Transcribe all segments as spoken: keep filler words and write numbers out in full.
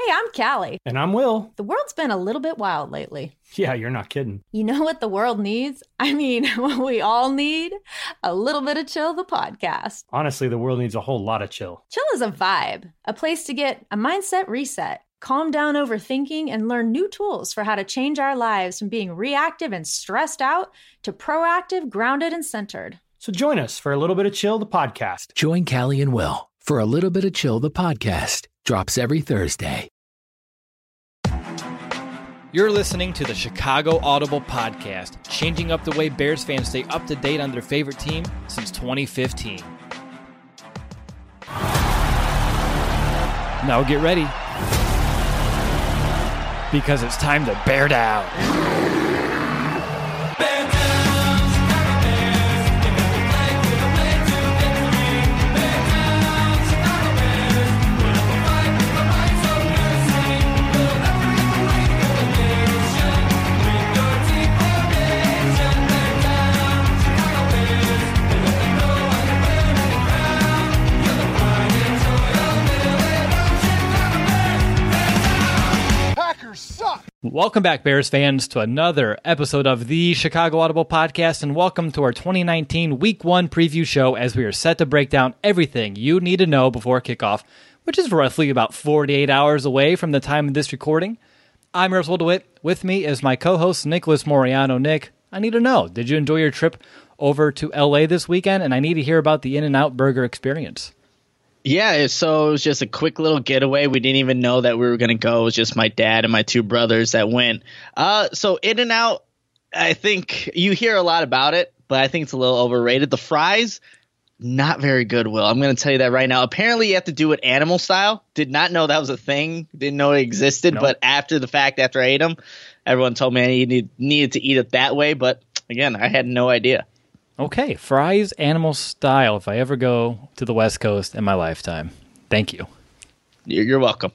I'm Callie. And I'm Will. The world's been a little bit wild lately. Yeah, you're not kidding. You know what the world needs? I mean, what we all need? A little bit of Chill, the podcast. Honestly, the world needs a whole lot of chill. Chill is a vibe, a place to get a mindset reset, calm down overthinking, and learn new tools for how to change our lives from being reactive and stressed out to proactive, grounded, and centered. So join us for a little bit of Chill, the podcast. Join Callie and Will for a little bit of Chill, the podcast. Drops every Thursday. You're listening to the Chicago Audible Podcast, changing up the way Bears fans stay up to date on their favorite team since twenty fifteen. Now get ready, because it's time to bear down. Welcome back, Bears fans, to another episode of the Chicago Audible Podcast, and welcome to our twenty nineteen Week one preview show as we are set to break down everything you need to know before kickoff, which is roughly about forty-eight hours away from the time of this recording. I'm Russell DeWitt. With me is my co-host, Nicholas Moriano. Nick, I need to know, did you enjoy your trip over to L A this weekend? And I need to hear about the In-N-Out Burger experience. Yeah, so it was just a quick little getaway. We didn't even know that we were going to go. It was just my dad and my two brothers that went. Uh, so In-N-Out, I think you hear a lot about it, but I think it's a little overrated. The fries, not very good, Will. I'm going to tell you that right now. Apparently you have to do it animal style. Did not know that was a thing. Didn't know it existed. Nope. But after the fact, after I ate them, everyone told me I needed, needed to eat it that way. But again, I had no idea. Okay, fries animal style if I ever go to the West Coast in my lifetime. Thank you. You're welcome.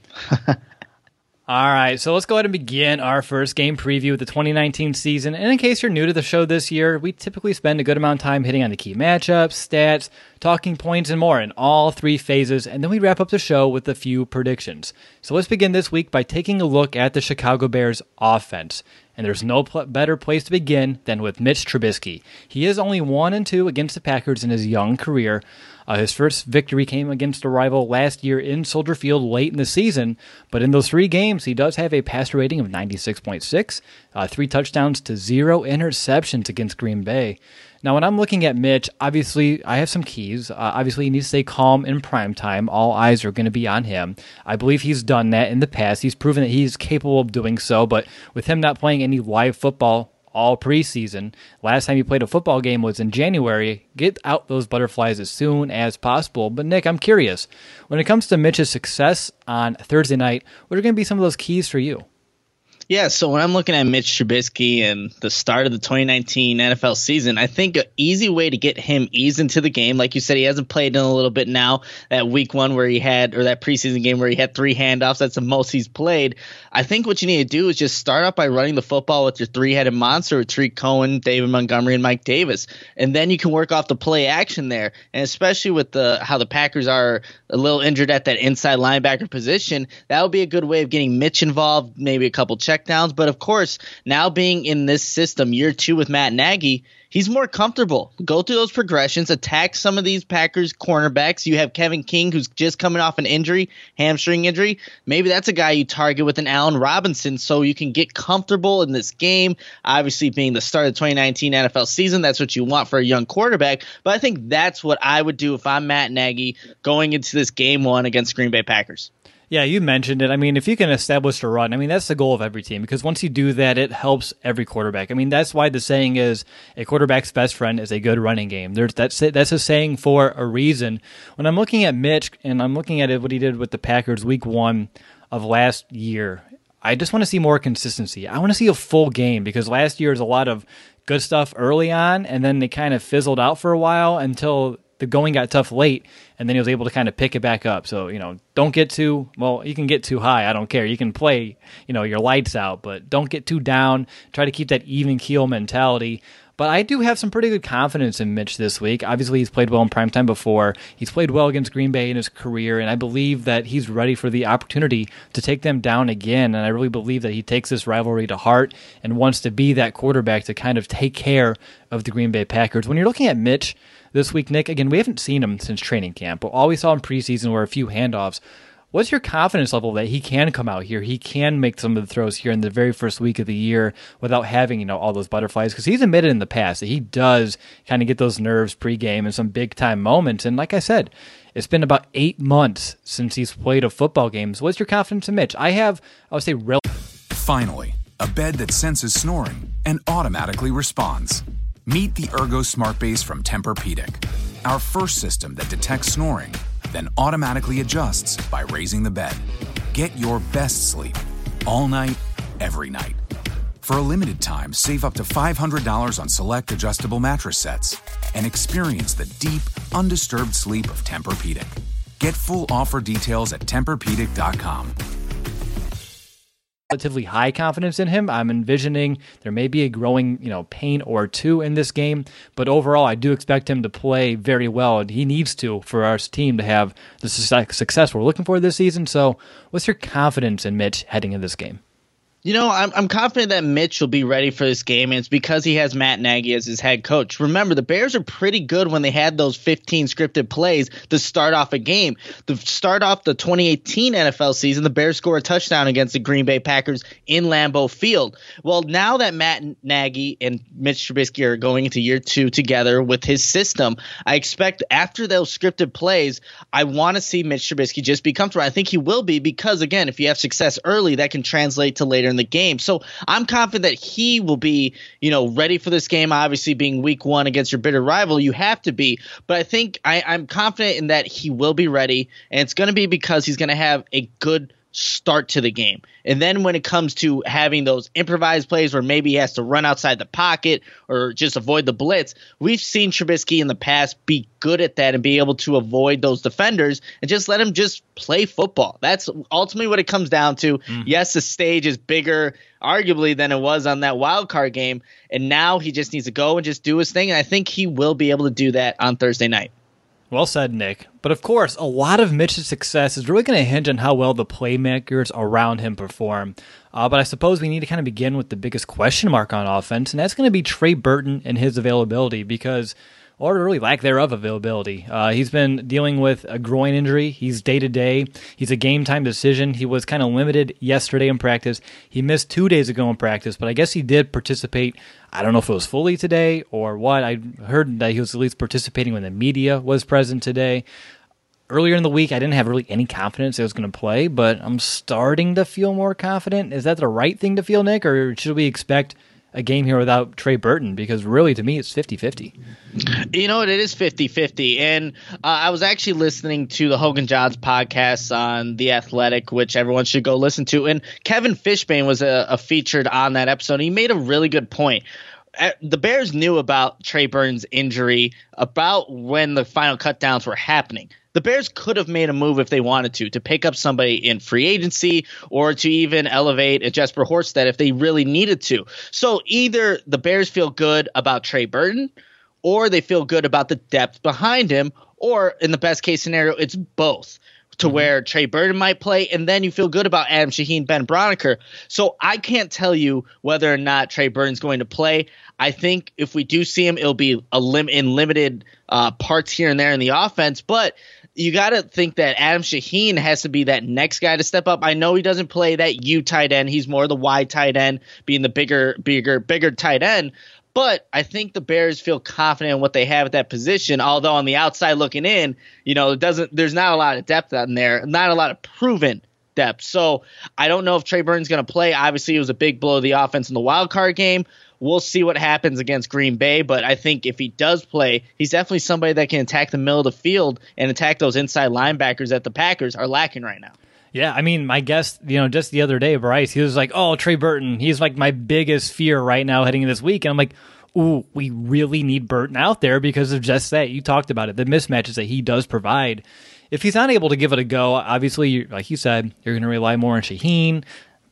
All right, so let's go ahead and begin our first game preview of the twenty nineteen season. And in case you're new to the show this year, we typically spend a good amount of time hitting on the key matchups, stats, talking points, and more in all three phases, and then we wrap up the show with a few predictions. So let's begin this week by taking a look at the Chicago Bears offense. And there's no pl- better place to begin than with Mitch Trubisky. He is only one and two against the Packers in his young career. Uh, his first victory came against a rival last year in Soldier Field late in the season, but in those three games, he does have a passer rating of ninety-six point six, uh, three touchdowns to zero interceptions against Green Bay. Now, when I'm looking at Mitch, obviously, I have some keys. Uh, obviously, he needs to stay calm in prime time. All eyes are going to be on him. I believe he's done that in the past. He's proven that he's capable of doing so, but with him not playing any live football all preseason, last time he played a football game was in January. Get out those butterflies as soon as possible. But, Nick, I'm curious. When it comes to Mitch's success on Thursday night, what are going to be some of those keys for you? Yeah, so when I'm looking at Mitch Trubisky and the start of the twenty nineteen N F L season, I think an easy way to get him eased into the game, like you said, he hasn't played in a little bit now, that week one where he had, or that preseason game where he had three handoffs, that's the most he's played. I think what you need to do is just start out by running the football with your three-headed monster, with Tariq Cohen, David Montgomery, and Mike Davis. And then you can work off the play action there. And especially with the how the Packers are a little injured at that inside linebacker position, that would be a good way of getting Mitch involved, maybe a couple check downs. But of course, now being in this system year two with Matt Nagy, he's more comfortable. Go through those progressions, attack some of these Packers cornerbacks. You have Kevin King, who's just coming off an injury, hamstring injury. Maybe that's a guy you target with an Allen Robinson so you can get comfortable in this game. Obviously, being the start of the twenty nineteen N F L season, that's what you want for a young quarterback. But I think that's what I would do if I'm Matt Nagy going into this game one against Green Bay Packers. Yeah, you mentioned it. I mean, if you can establish a run, I mean, that's the goal of every team, because once you do that, it helps every quarterback. I mean, that's why the saying is a quarterback's best friend is a good running game. There's that's that's a saying for a reason. When I'm looking at Mitch and I'm looking at it, what he did with the Packers week one of last year, I just want to see more consistency. I want to see a full game, because last year was a lot of good stuff early on, and then they kind of fizzled out for a while until the going got tough late, and then he was able to kind of pick it back up. So, you know, don't get too, well, you can get too high. I don't care. You can play, you know, your lights out, but don't get too down. Try to keep that even keel mentality. But I do have some pretty good confidence in Mitch this week. Obviously, he's played well in primetime before. He's played well against Green Bay in his career, and I believe that he's ready for the opportunity to take them down again. And I really believe that he takes this rivalry to heart and wants to be that quarterback to kind of take care of the Green Bay Packers. When you're looking at Mitch this week, Nick, again, we haven't seen him since training camp, but all we saw in preseason were a few handoffs. What's your confidence level that he can come out here? He can make some of the throws here in the very first week of the year without having, you know, all those butterflies? Because he's admitted in the past that he does kind of get those nerves pregame and some big time moments. And like I said, it's been about eight months since he's played a football game. So what's your confidence in Mitch? I have, I would say, real. Finally, a bed that senses snoring and automatically responds. Meet the Ergo Smart Base from Tempur-Pedic, our first system that detects snoring, then automatically adjusts by raising the bed. Get your best sleep all night, every night. For a limited time, save up to five hundred dollars on select adjustable mattress sets and experience the deep, undisturbed sleep of Tempur-Pedic. Get full offer details at Tempur Pedic dot com. Relatively high confidence in him. I'm envisioning there may be a growing, you know, pain or two in this game, but overall, I do expect him to play very well, and he needs to for our team to have the success we're looking for this season. So, what's your confidence in Mitch heading into this game? You know, I'm I'm confident that Mitch will be ready for this game, and it's because he has Matt Nagy as his head coach. Remember, the Bears are pretty good when they had those fifteen scripted plays to start off a game. To start off the twenty eighteen N F L season, the Bears score a touchdown against the Green Bay Packers in Lambeau Field. Well, now that Matt Nagy and Mitch Trubisky are going into year two together with his system, I expect after those scripted plays, I want to see Mitch Trubisky just be comfortable. I think he will be because, again, if you have success early, that can translate to later in the game. So I'm confident that he will be, you know, ready for this game. Obviously, being week one against your bitter rival, you have to be. But I think I, I'm confident in that he will be ready, and it's going to be because he's going to have a good start to the game. And then when it comes to having those improvised plays where maybe he has to run outside the pocket or just avoid the blitz, we've seen Trubisky in the past be good at that and be able to avoid those defenders and just let him just play football. That's ultimately what it comes down to. Mm. Yes, the stage is bigger arguably than it was on that wild card game, and now he just needs to go and just do his thing, and I think he will be able to do that on Thursday night. Well said, Nick. But of course, a lot of Mitch's success is really going to hinge on how well the playmakers around him perform. Uh, but I suppose we need to kind of begin with the biggest question mark on offense, and that's going to be Trey Burton and his availability because, or really lack thereof availability. Uh, he's been dealing with a groin injury. He's day-to-day. He's a game-time decision. He was kind of limited yesterday in practice. He missed two days ago in practice, but I guess he did participate. I don't know if it was fully today or what. I heard that he was at least participating when the media was present today. Earlier in the week, I didn't have really any confidence he was going to play, but I'm starting to feel more confident. Is that the right thing to feel, Nick, or should we expect a game here without Trey Burton? Because really, to me, it's fifty-fifty. You know what? It is fifty-fifty. And uh, I was actually listening to the Hogan Johns podcast on The Athletic, which everyone should go listen to. And Kevin Fishbain was a, a featured on that episode. He made a really good point. The Bears knew about Trey Burton's injury about when the final cutdowns were happening. The Bears could have made a move if they wanted to, to pick up somebody in free agency or to even elevate a Jesper Horsted if they really needed to. So either the Bears feel good about Trey Burton or they feel good about the depth behind him, or in the best case scenario, it's both. To mm-hmm. where Trey Burton might play, and then you feel good about Adam Shaheen, Ben Broniker. So I can't tell you whether or not Trey Burton's going to play. I think if we do see him, it'll be a lim- in limited uh, parts here and there in the offense. But you got to think that Adam Shaheen has to be that next guy to step up. I know he doesn't play that U tight end. He's more the Y tight end, being the bigger, bigger, bigger tight end. But I think the Bears feel confident in what they have at that position, although on the outside looking in, you know, it doesn't. There's not a lot of depth on there, not a lot of proven depth. So I don't know if Trey Burton's going to play. Obviously, it was a big blow of the offense in the wild card game. We'll see what happens against Green Bay, but I think if he does play, he's definitely somebody that can attack the middle of the field and attack those inside linebackers that the Packers are lacking right now. Yeah, I mean, my guest, you know, just the other day, Bryce, he was like, oh, Trey Burton, he's like my biggest fear right now heading into this week. And I'm like, ooh, we really need Burton out there because of just that. You talked about it, the mismatches that he does provide. If he's not able to give it a go, obviously, like you said, you're going to rely more on Shaheen.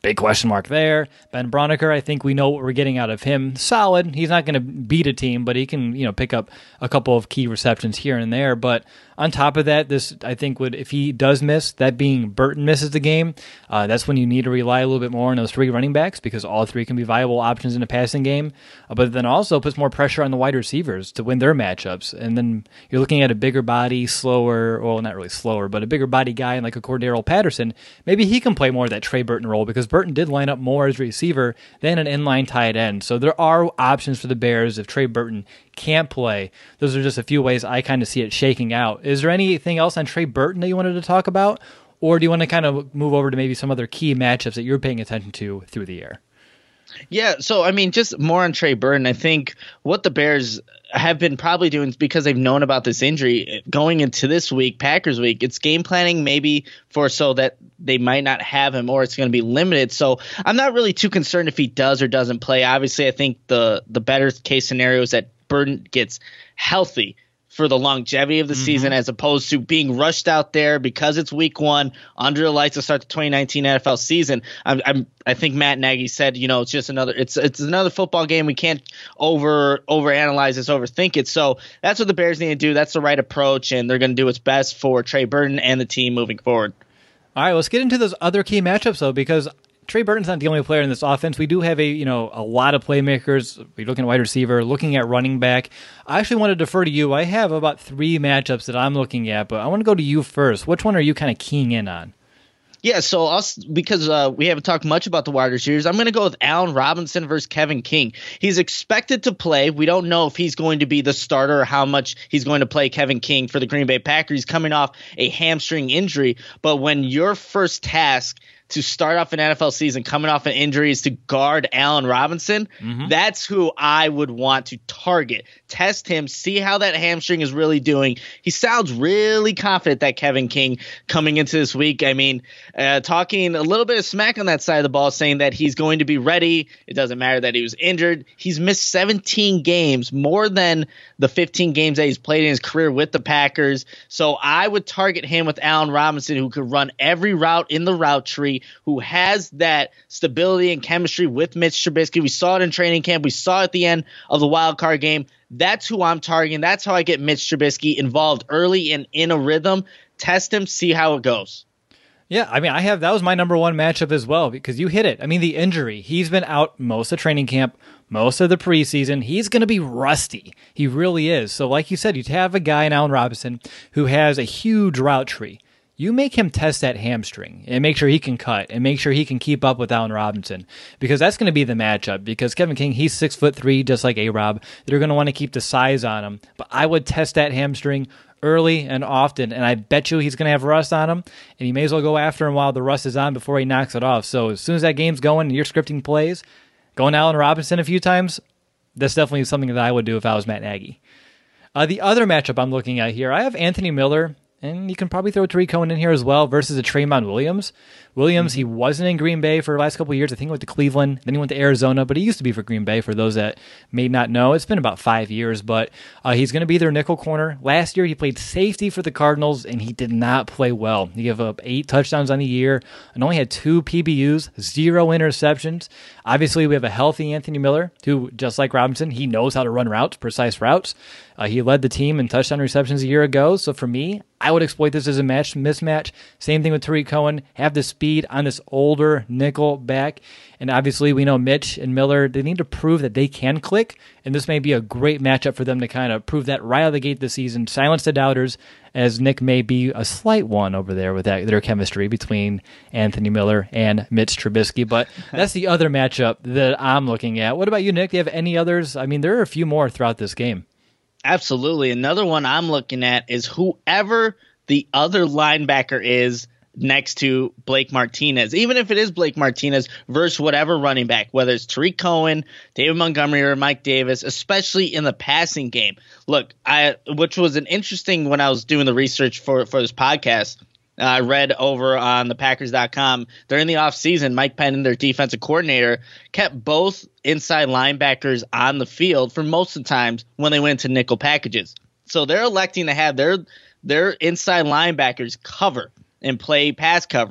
big question mark there. Ben Braunecker, I think we know what we're getting out of him. Solid. He's not going to beat a team, but he can, you know, pick up a couple of key receptions here and there. But on top of that, this, I think, would, if he does miss, that being Burton misses the game, uh, that's when you need to rely a little bit more on those three running backs, because all three can be viable options in a passing game. Uh, but then also puts more pressure on the wide receivers to win their matchups. And then you're looking at a bigger body, slower, well, not really slower, but a bigger body guy like a Cordero Patterson. Maybe he can play more of that Trey Burton role, because Burton did line up more as a receiver than an inline tight end. So there are options for the Bears if Trey Burton can't play. Those are just a few ways I kind of see it shaking out. Is there anything else on Trey Burton that you wanted to talk about? Or do you want to kind of move over to maybe some other key matchups that you're paying attention to through the year? Yeah, so I mean, just more on Trey Burton. I think what the Bears have been probably doing, because they've known about this injury going into this week, Packers week, it's game planning maybe for so that they might not have him, or it's going to be limited. So I'm not really too concerned if he does or doesn't play. Obviously, I think the the better case scenario is that Burton gets healthy for the longevity of the mm-hmm. season, as opposed to being rushed out there because it's week one under the lights to start the twenty nineteen N F L season. I'm, I'm, I think Matt Nagy said, you know, it's just another, it's it's another football game. We can't over overanalyze this, overthink it. So that's what the Bears need to do. That's the right approach, and they're going to do what's best for Trey Burton and the team moving forward. All right, let's get into those other key matchups though, because Trey Burton's not the only player in this offense. We do have a you know a lot of playmakers. We're looking at wide receiver, looking at running back. I actually want to defer to you. I have about three matchups that I'm looking at, but I want to go to you first. Which one are you kind of keying in on? Yeah, so I'll, because uh, we haven't talked much about the wide receivers, I'm going to go with Allen Robinson versus Kevin King. He's expected to play. We don't know if he's going to be the starter or how much he's going to play Kevin King for the Green Bay Packers. He's coming off a hamstring injury, but when your first task to start off an N F L season coming off an injury is to guard Allen Robinson, mm-hmm. that's who I would want to target. Test him, see how that hamstring is really doing. He sounds really confident, that Kevin King, coming into this week. I mean, uh, talking a little bit of smack on that side of the ball, saying that he's going to be ready. It doesn't matter that he was injured. He's missed seventeen games, more than the fifteen games that he's played in his career with the Packers. So I would target him with Allen Robinson, who could run every route in the route tree, who has that stability and chemistry with Mitch Trubisky. We saw it in training camp. We saw it at the end of the wild card game. That's who I'm targeting. That's how I get Mitch Trubisky involved early and in a rhythm. Test him, see how it goes. Yeah, I mean, I have that was my number one matchup as well, because you hit it. I mean, the injury. He's been out most of training camp, most of the preseason. He's going to be rusty. He really is. So like you said, you have a guy in Allen Robinson who has a huge route tree. You make him test that hamstring and make sure he can cut and make sure he can keep up with Allen Robinson, because that's going to be the matchup. Because Kevin King, he's six foot three, just like A-Rob. They're going to want to keep the size on him. But I would test that hamstring early and often, and I bet you he's going to have rust on him, and you may as well go after him while the rust is on before he knocks it off. So as soon as that game's going and you're scripting plays, going Allen Robinson a few times, that's definitely something that I would do if I was Matt Nagy. Uh, the other matchup I'm looking at here, I have Anthony Miller, and you can probably throw Tariq Cohen in here as well, versus a Tremont Williams. Williams, he wasn't in Green Bay for the last couple of years. I think he went to Cleveland, then he went to Arizona, but he used to be for Green Bay, for those that may not know. It's been about five years, but uh, he's going to be their nickel corner. Last year, he played safety for the Cardinals, and he did not play well. He gave up eight touchdowns on the year and only had two P B Us, zero interceptions. Obviously, we have a healthy Anthony Miller, who, just like Robinson, he knows how to run routes, precise routes. Uh, he led the team in touchdown receptions a year ago, so for me, I would exploit this as a match mismatch. Same thing with Tariq Cohen. Have the speed on this older nickel back. And obviously, we know Mitch and Miller, they need to prove that they can click. And this may be a great matchup for them to kind of prove that right out of the gate this season. Silence the doubters, as Nick may be a slight one over there with that, their chemistry between Anthony Miller and Mitch Trubisky. But that's the other matchup that I'm looking at. What about you, Nick? Do you have any others? I mean, there are a few more throughout this game. Absolutely. Another one I'm looking at is whoever the other linebacker is next to Blake Martinez. Even if it is Blake Martinez versus whatever running back, whether it's Tariq Cohen, David Montgomery, or Mike Davis, especially in the passing game. Look, I which was an interesting when I was doing the research for, for this podcast. Uh, I read over on the Packers dot com during the offseason, Mike Penn, their defensive coordinator, kept both inside linebackers on the field for most of the times when they went to nickel packages. So they're electing to have their their inside linebackers cover and play pass coverage.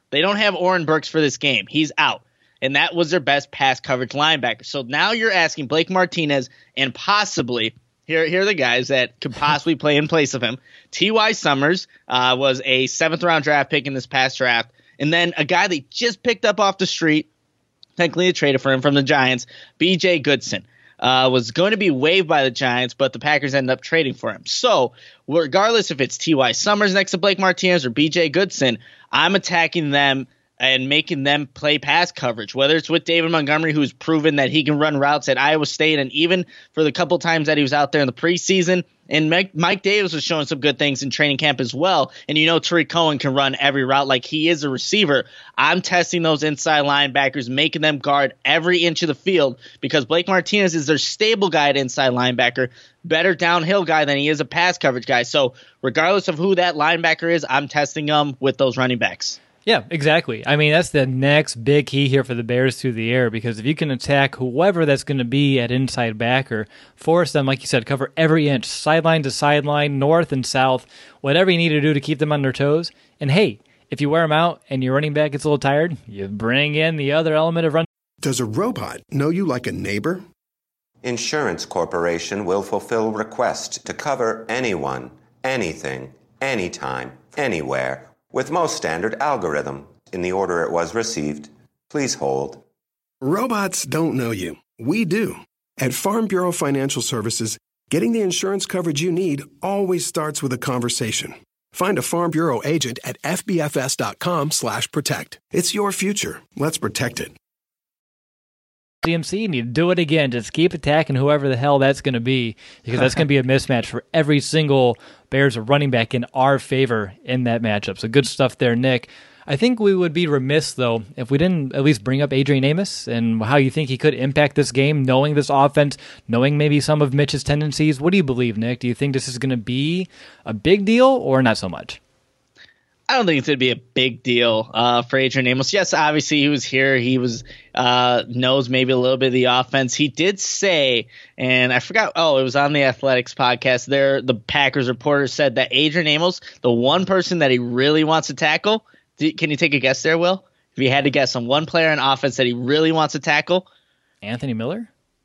They don't have Oren Burks for this game. He's out. And that was their best pass coverage linebacker. So now you're asking Blake Martinez and possibly, here, here are the guys that could possibly play in place of him. T Y. Summers uh, was a seventh-round draft pick in this past draft. And then a guy they just picked up off the street, technically a trader for him from the Giants, B J Goodson. Uh, was going to be waived by the Giants, but the Packers ended up trading for him. So regardless if it's T Y. Summers next to Blake Martinez or B J Goodson, I'm attacking them and making them play pass coverage, whether it's with David Montgomery, who's proven that he can run routes at Iowa State, and even for the couple times that he was out there in the preseason. And Mike, Mike Davis was showing some good things in training camp as well. And you know Tariq Cohen can run every route like he is a receiver. I'm testing those inside linebackers, making them guard every inch of the field because Blake Martinez is their stable guy at inside linebacker, better downhill guy than he is a pass coverage guy. So regardless of who that linebacker is, I'm testing them with those running backs. Yeah, exactly. I mean, that's the next big key here for the Bears through the air, because if you can attack whoever that's going to be at inside back or force them, like you said, cover every inch, sideline to sideline, north and south, whatever you need to do to keep them on their toes. And hey, if you wear them out and your running back gets a little tired, you bring in the other element of run. Does a robot know you like a neighbor? Insurance Corporation will fulfill requests to cover anyone, anything, anytime, anywhere, with most standard algorithm in the order it was received. Please hold. Robots don't know you. We do. At Farm Bureau Financial Services, getting the insurance coverage you need always starts with a conversation. Find a Farm Bureau agent at fbfs.com slash protect. It's your future. Let's protect it. C M C, and you do it again. Just keep attacking whoever the hell that's going to be, because that's going to be a mismatch for every single Bears running back in our favor in that matchup. So good stuff there, Nick. I think we would be remiss, though, if we didn't at least bring up Adrian Amos and how you think he could impact this game, knowing this offense, knowing maybe some of Mitch's tendencies. What do you believe, Nick? Do you think this is going to be a big deal or not so much? I don't think it's going to be a big deal uh, for Adrian Amos. Yes, obviously he was here. He was uh, knows maybe a little bit of the offense. He did say, and I forgot, oh, it was on the Athletics podcast there, the Packers reporter said that Adrian Amos, the one person that he really wants to tackle, do, can you take a guess there, Will? If you had to guess on one player in offense that he really wants to tackle? Anthony Miller?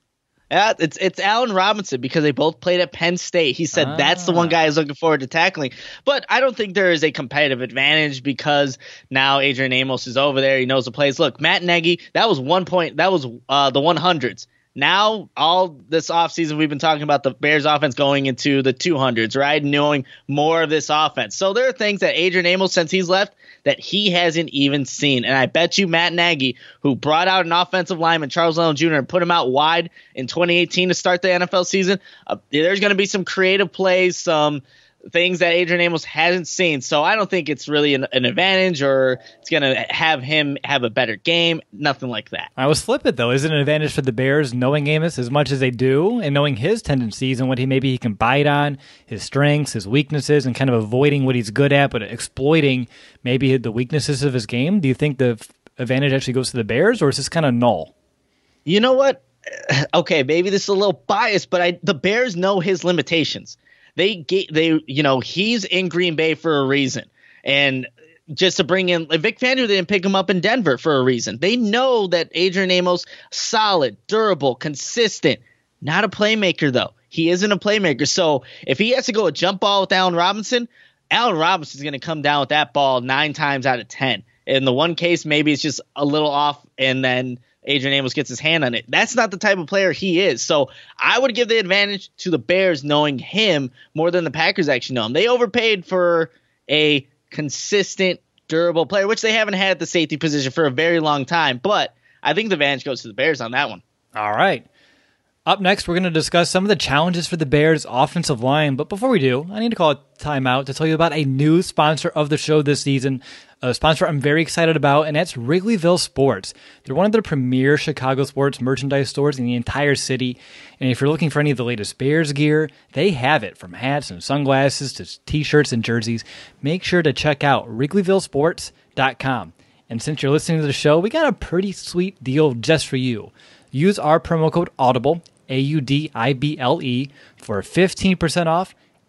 Yeah, it's it's Allen Robinson, because they both played at Penn State. He said ah. that's the one guy he's looking forward to tackling. But I don't think there is a competitive advantage because now Adrian Amos is over there. He knows the plays. Look, Matt Nagy, that was one point. That was uh, the one hundreds. Now, all this offseason, we've been talking about the Bears offense going into the two hundreds, right? Knowing more of this offense. So there are things that Adrian Amos, since he's left, that he hasn't even seen. And I bet you Matt Nagy, who brought out an offensive lineman, Charles Leno Junior, and put him out wide in twenty eighteen to start the N F L season, uh, there's going to be some creative plays, some things that Adrian Amos hasn't seen. So I don't think it's really an, an advantage or it's going to have him have a better game. Nothing like that. I was flip it, though. Is it an advantage for the Bears knowing Amos as much as they do and knowing his tendencies and what he maybe he can bite on, his strengths, his weaknesses, and kind of avoiding what he's good at but exploiting maybe the weaknesses of his game? Do you think the advantage actually goes to the Bears, or is this kind of null? You know what? Okay, maybe this is a little biased, but I, the Bears know his limitations. They get, they, you know, he's in Green Bay for a reason. And just to bring in Vic Fangio, they didn't pick him up in Denver for a reason. They know that Adrian Amos, solid, durable, consistent, not a playmaker, though. He isn't a playmaker. So if he has to go a jump ball with Allen Robinson, Allen Robinson is going to come down with that ball nine times out of ten. In the one case, maybe it's just a little off, and then Adrian Amos gets his hand on it. That's not the type of player he is. So I would give the advantage to the Bears knowing him more than the Packers actually know him. They overpaid for a consistent, durable player, which they haven't had at the safety position for a very long time. But I think the advantage goes to the Bears on that one. All right. Up next, we're going to discuss some of the challenges for the Bears' offensive line. But before we do, I need to call a timeout to tell you about a new sponsor of the show this season, a sponsor I'm very excited about, and that's Wrigleyville Sports. They're one of the premier Chicago sports merchandise stores in the entire city. And if you're looking for any of the latest Bears gear, they have it, from hats and sunglasses to t-shirts and jerseys. Make sure to check out wrigleyville sports dot com. And since you're listening to the show, we got a pretty sweet deal just for you. Use our promo code AUDIBLE, A U D I B L E, for fifteen percent off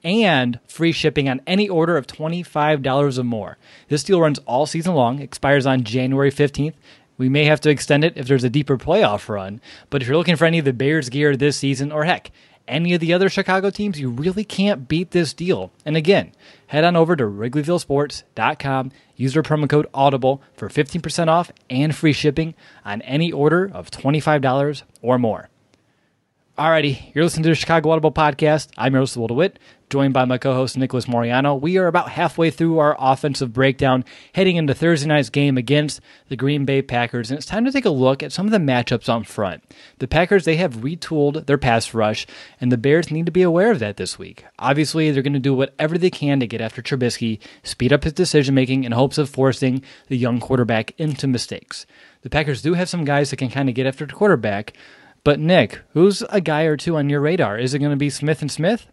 and free shipping on any order of twenty-five dollars or more. This deal runs all season long, expires on January fifteenth. We may have to extend it if there's a deeper playoff run, but if you're looking for any of the Bears gear this season, or heck, any of the other Chicago teams, you really can't beat this deal. And again, head on over to Wrigleyville Sports dot com, use our promo code AUDIBLE for fifteen percent off and free shipping on any order of twenty-five dollars or more. Alrighty, you're listening to the Chicago Audible Podcast. I'm your host, Will DeWitt, joined by my co-host, Nicholas Moriano. We are about halfway through our offensive breakdown, heading into Thursday night's game against the Green Bay Packers, and it's time to take a look at some of the matchups on front. The Packers, they have retooled their pass rush, and the Bears need to be aware of that this week. Obviously, they're going to do whatever they can to get after Trubisky, speed up his decision-making in hopes of forcing the young quarterback into mistakes. The Packers do have some guys that can kind of get after the quarterback, but Nick, who's a guy or two on your radar? Is it going to be Smith and Smith?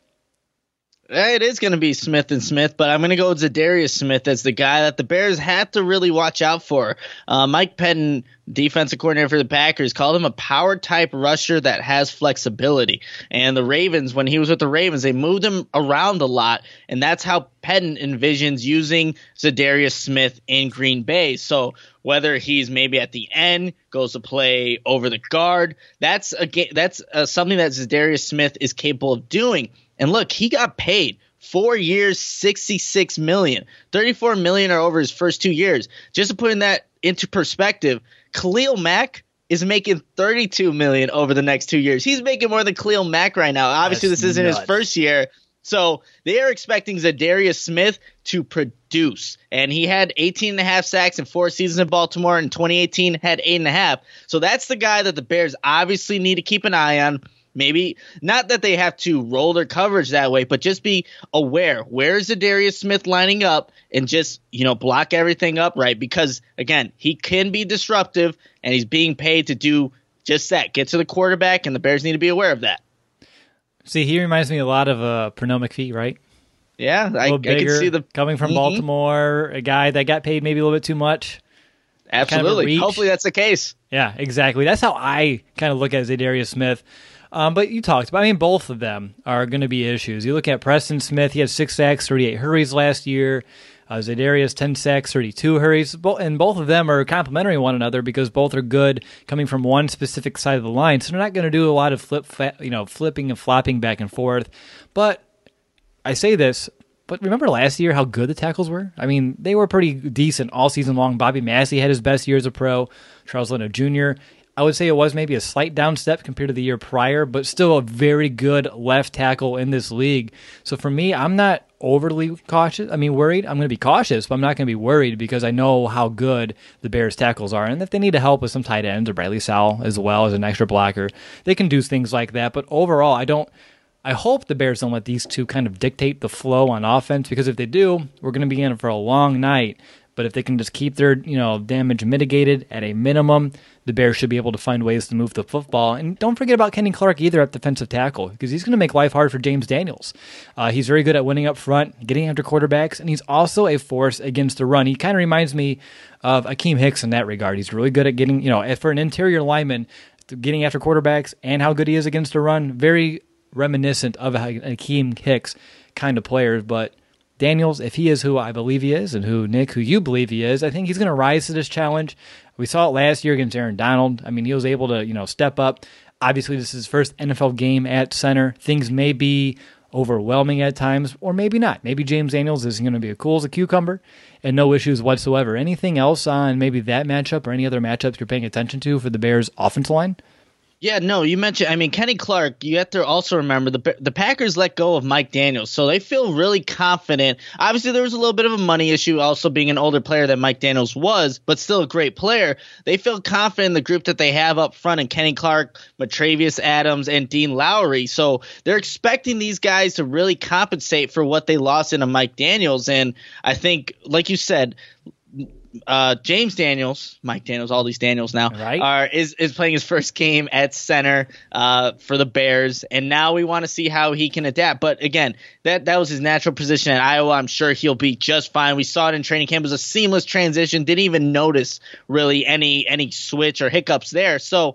It is going to be Smith and Smith, but I'm going to go with Zadarius Smith as the guy that the Bears have to really watch out for. Uh, Mike Pettin, defensive coordinator for the Packers, called him a power-type rusher that has flexibility. And the Ravens, when he was with the Ravens, they moved him around a lot, and that's how Pettin envisions using Zadarius Smith in Green Bay. So whether he's maybe at the end, goes to play over the guard, that's a that's uh, something that Zadarius Smith is capable of doing. And look, he got paid four years, sixty-six million dollars. thirty-four million dollars are over his first two years. Just to put that into perspective, Khalil Mack is making thirty-two million dollars over the next two years. He's making more than Khalil Mack right now. Obviously, That's this isn't nuts. His first year. So they are expecting Zadarius Smith to produce. And he had eighteen and a half sacks in four seasons in Baltimore. In twenty eighteen, had eight and a half. So that's the guy that the Bears obviously need to keep an eye on. Maybe not that they have to roll their coverage that way, but just be aware. Where is Zadarius Smith lining up and just, you know, block everything up right? Because, again, he can be disruptive, and he's being paid to do just that. Get to the quarterback, and the Bears need to be aware of that. See, he reminds me a lot of uh, Pernell McPhee, right? Yeah, I, I can see the coming from mm-hmm. Baltimore, a guy that got paid maybe a little bit too much. Absolutely. Kind of Hopefully that's the case. Yeah, exactly. That's how I kind of look at Zadarius Smith. Um, but you talked about, I mean, both of them are going to be issues. You look at Preston Smith, he had six sacks, thirty-eight hurries last year. Uh, Zadarius, ten sacks, thirty-two hurries. And both of them are complementary one another because both are good coming from one specific side of the line. So they're not going to do a lot of flip, you know, flipping and flopping back and forth. But I say this, but remember last year how good the tackles were? I mean, they were pretty decent all season long. Bobby Massey had his best year as a pro. Charles Leno Junior I would say it was maybe a slight down step compared to the year prior, but still a very good left tackle in this league. So for me, I'm not overly cautious. I mean, worried. I'm going to be cautious, but I'm not going to be worried because I know how good the Bears tackles are. And if they need to help with some tight ends or Bradley Sowell as well as an extra blocker, they can do things like that. But overall, I don't. I hope the Bears don't let these two kind of dictate the flow on offense, because if they do, we're going to be in for a long night. But if they can just keep their, you know, damage mitigated at a minimum, the Bears should be able to find ways to move the football. And don't forget about Kenny Clark either at defensive tackle, because he's going to make life hard for James Daniels. Uh, he's very good at winning up front, getting after quarterbacks, and he's also a force against the run. He kind of reminds me of Akeem Hicks in that regard. He's really good at getting, you know, for an interior lineman, getting after quarterbacks, and how good he is against the run. Very reminiscent of Akeem Hicks kind of players, but Daniels, if he is who I believe he is, and who, Nick, who you believe he is, I think he's going to rise to this challenge. We saw it last year against Aaron Donald. I mean, he was able to, you know, step up. Obviously, this is his first N F L game at center. Things may be overwhelming at times, or maybe not. Maybe James Daniels is going to be as cool as a cucumber and no issues whatsoever. Anything else on maybe that matchup or any other matchups you're paying attention to for the Bears' offensive line? Yeah, no, you mentioned, I mean, Kenny Clark, you have to also remember the the Packers let go of Mike Daniels, so they feel really confident. Obviously, there was a little bit of a money issue, also being an older player than Mike Daniels was, but still a great player. They feel confident in the group that they have up front in Kenny Clark, Matravius Adams, and Dean Lowry, so they're expecting these guys to really compensate for what they lost in a Mike Daniels, and I think, like you said, Uh, James Daniels, Mike Daniels, all these Daniels now, right. are is, is playing his first game at center uh, for the Bears, and now we want to see how he can adapt. But again, that that was his natural position at Iowa. I'm sure he'll be just fine. We saw it in training camp. It was a seamless transition. Didn't even notice really any any switch or hiccups there. So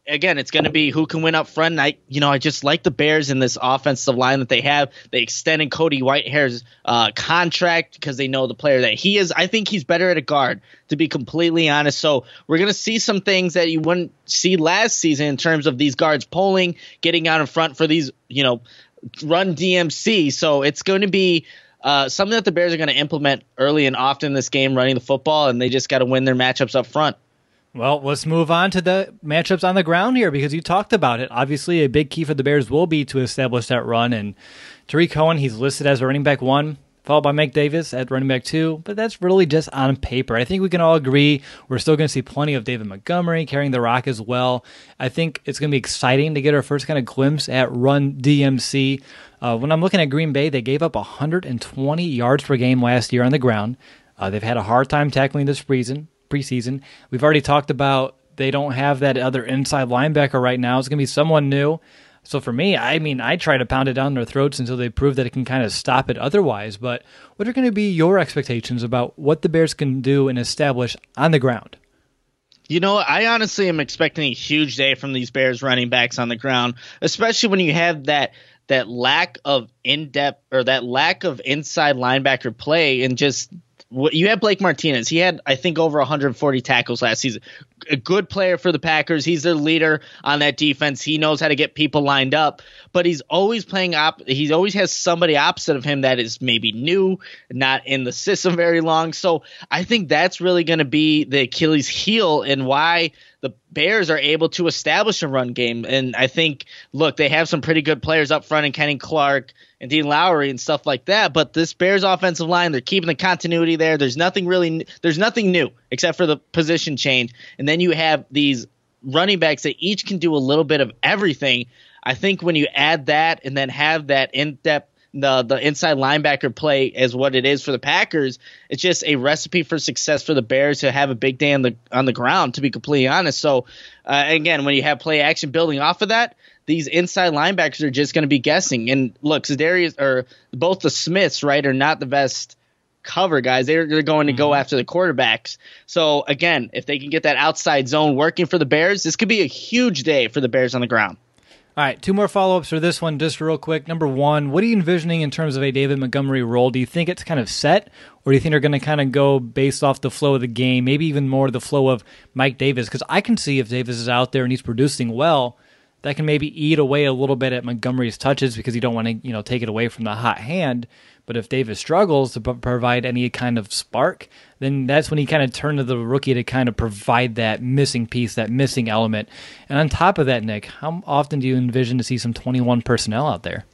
again, it's going to be who can win up front. And I, you know, I just like the Bears in this offensive line that they have. They extended Cody Whitehair's uh, contract because they know the player that he is. I think he's better at a guard, to be completely honest. So we're going to see some things that you wouldn't see last season in terms of these guards pulling, getting out in front for these, you know, run D M C. So it's going to be uh, something that the Bears are going to implement early and often in this game, running the football, and they just got to win their matchups up front. Well, let's move on to the matchups on the ground here because you talked about it. Obviously, a big key for the Bears will be to establish that run. And Tarik Cohen, he's listed as a running back one, followed by Mike Davis at running back two. But that's really just on paper. I think we can all agree we're still going to see plenty of David Montgomery carrying the rock as well. I think it's going to be exciting to get our first kind of glimpse at run D M C. Uh, when I'm looking at Green Bay, they gave up one hundred twenty yards per game last year on the ground. Uh, they've had a hard time tackling this season. preseason. We've already talked about they don't have that other inside linebacker right now. It's going to be someone new. So for me, I mean, I try to pound it down their throats until they prove that it can kind of stop it otherwise. But what are going to be your expectations about what the Bears can do and establish on the ground? You know, I honestly am expecting a huge day from these Bears running backs on the ground, especially when you have that that lack of in-depth or that lack of inside linebacker play and just – you have Blake Martinez. He had, I think, over one hundred forty tackles last season. A good player for the Packers. He's their leader on that defense. He knows how to get people lined up, but he's always playing op. He always has somebody opposite of him that is maybe new, not in the system very long. So I think that's really going to be the Achilles heel and why the Bears are able to establish a run game. And I think, look, they have some pretty good players up front in Kenny Clark and Dean Lowry and stuff like that. But this Bears offensive line, they're keeping the continuity there. There's nothing really, there's nothing new except for the position change. And then you have these running backs that each can do a little bit of everything. I think when you add that and then have that in-depth, the the inside linebacker play as what it is for the Packers, it's just a recipe for success for the Bears to have a big day on the on the ground, to be completely honest. So, uh, again, when you have play action building off of that, these inside linebackers are just going to be guessing. And look, Za'Darius or both the Smiths, right, are not the best cover guys. They're, they're going to go mm-hmm. after the quarterbacks. So, again, if they can get that outside zone working for the Bears, this could be a huge day for the Bears on the ground. All right, two more follow-ups for this one, just real quick. Number one, what are you envisioning in terms of a David Montgomery role? Do you think it's kind of set, or do you think they're going to kind of go based off the flow of the game, maybe even more the flow of Mike Davis? Because I can see if Davis is out there and he's producing well, that can maybe eat away a little bit at Montgomery's touches because you don't want to, you know, take it away from the hot hand. But if Davis struggles to p- provide any kind of spark, then that's when he kind of turned to the rookie to kind of provide that missing piece, that missing element. And on top of that, Nick, how often do you envision to see some twenty-one personnel out there?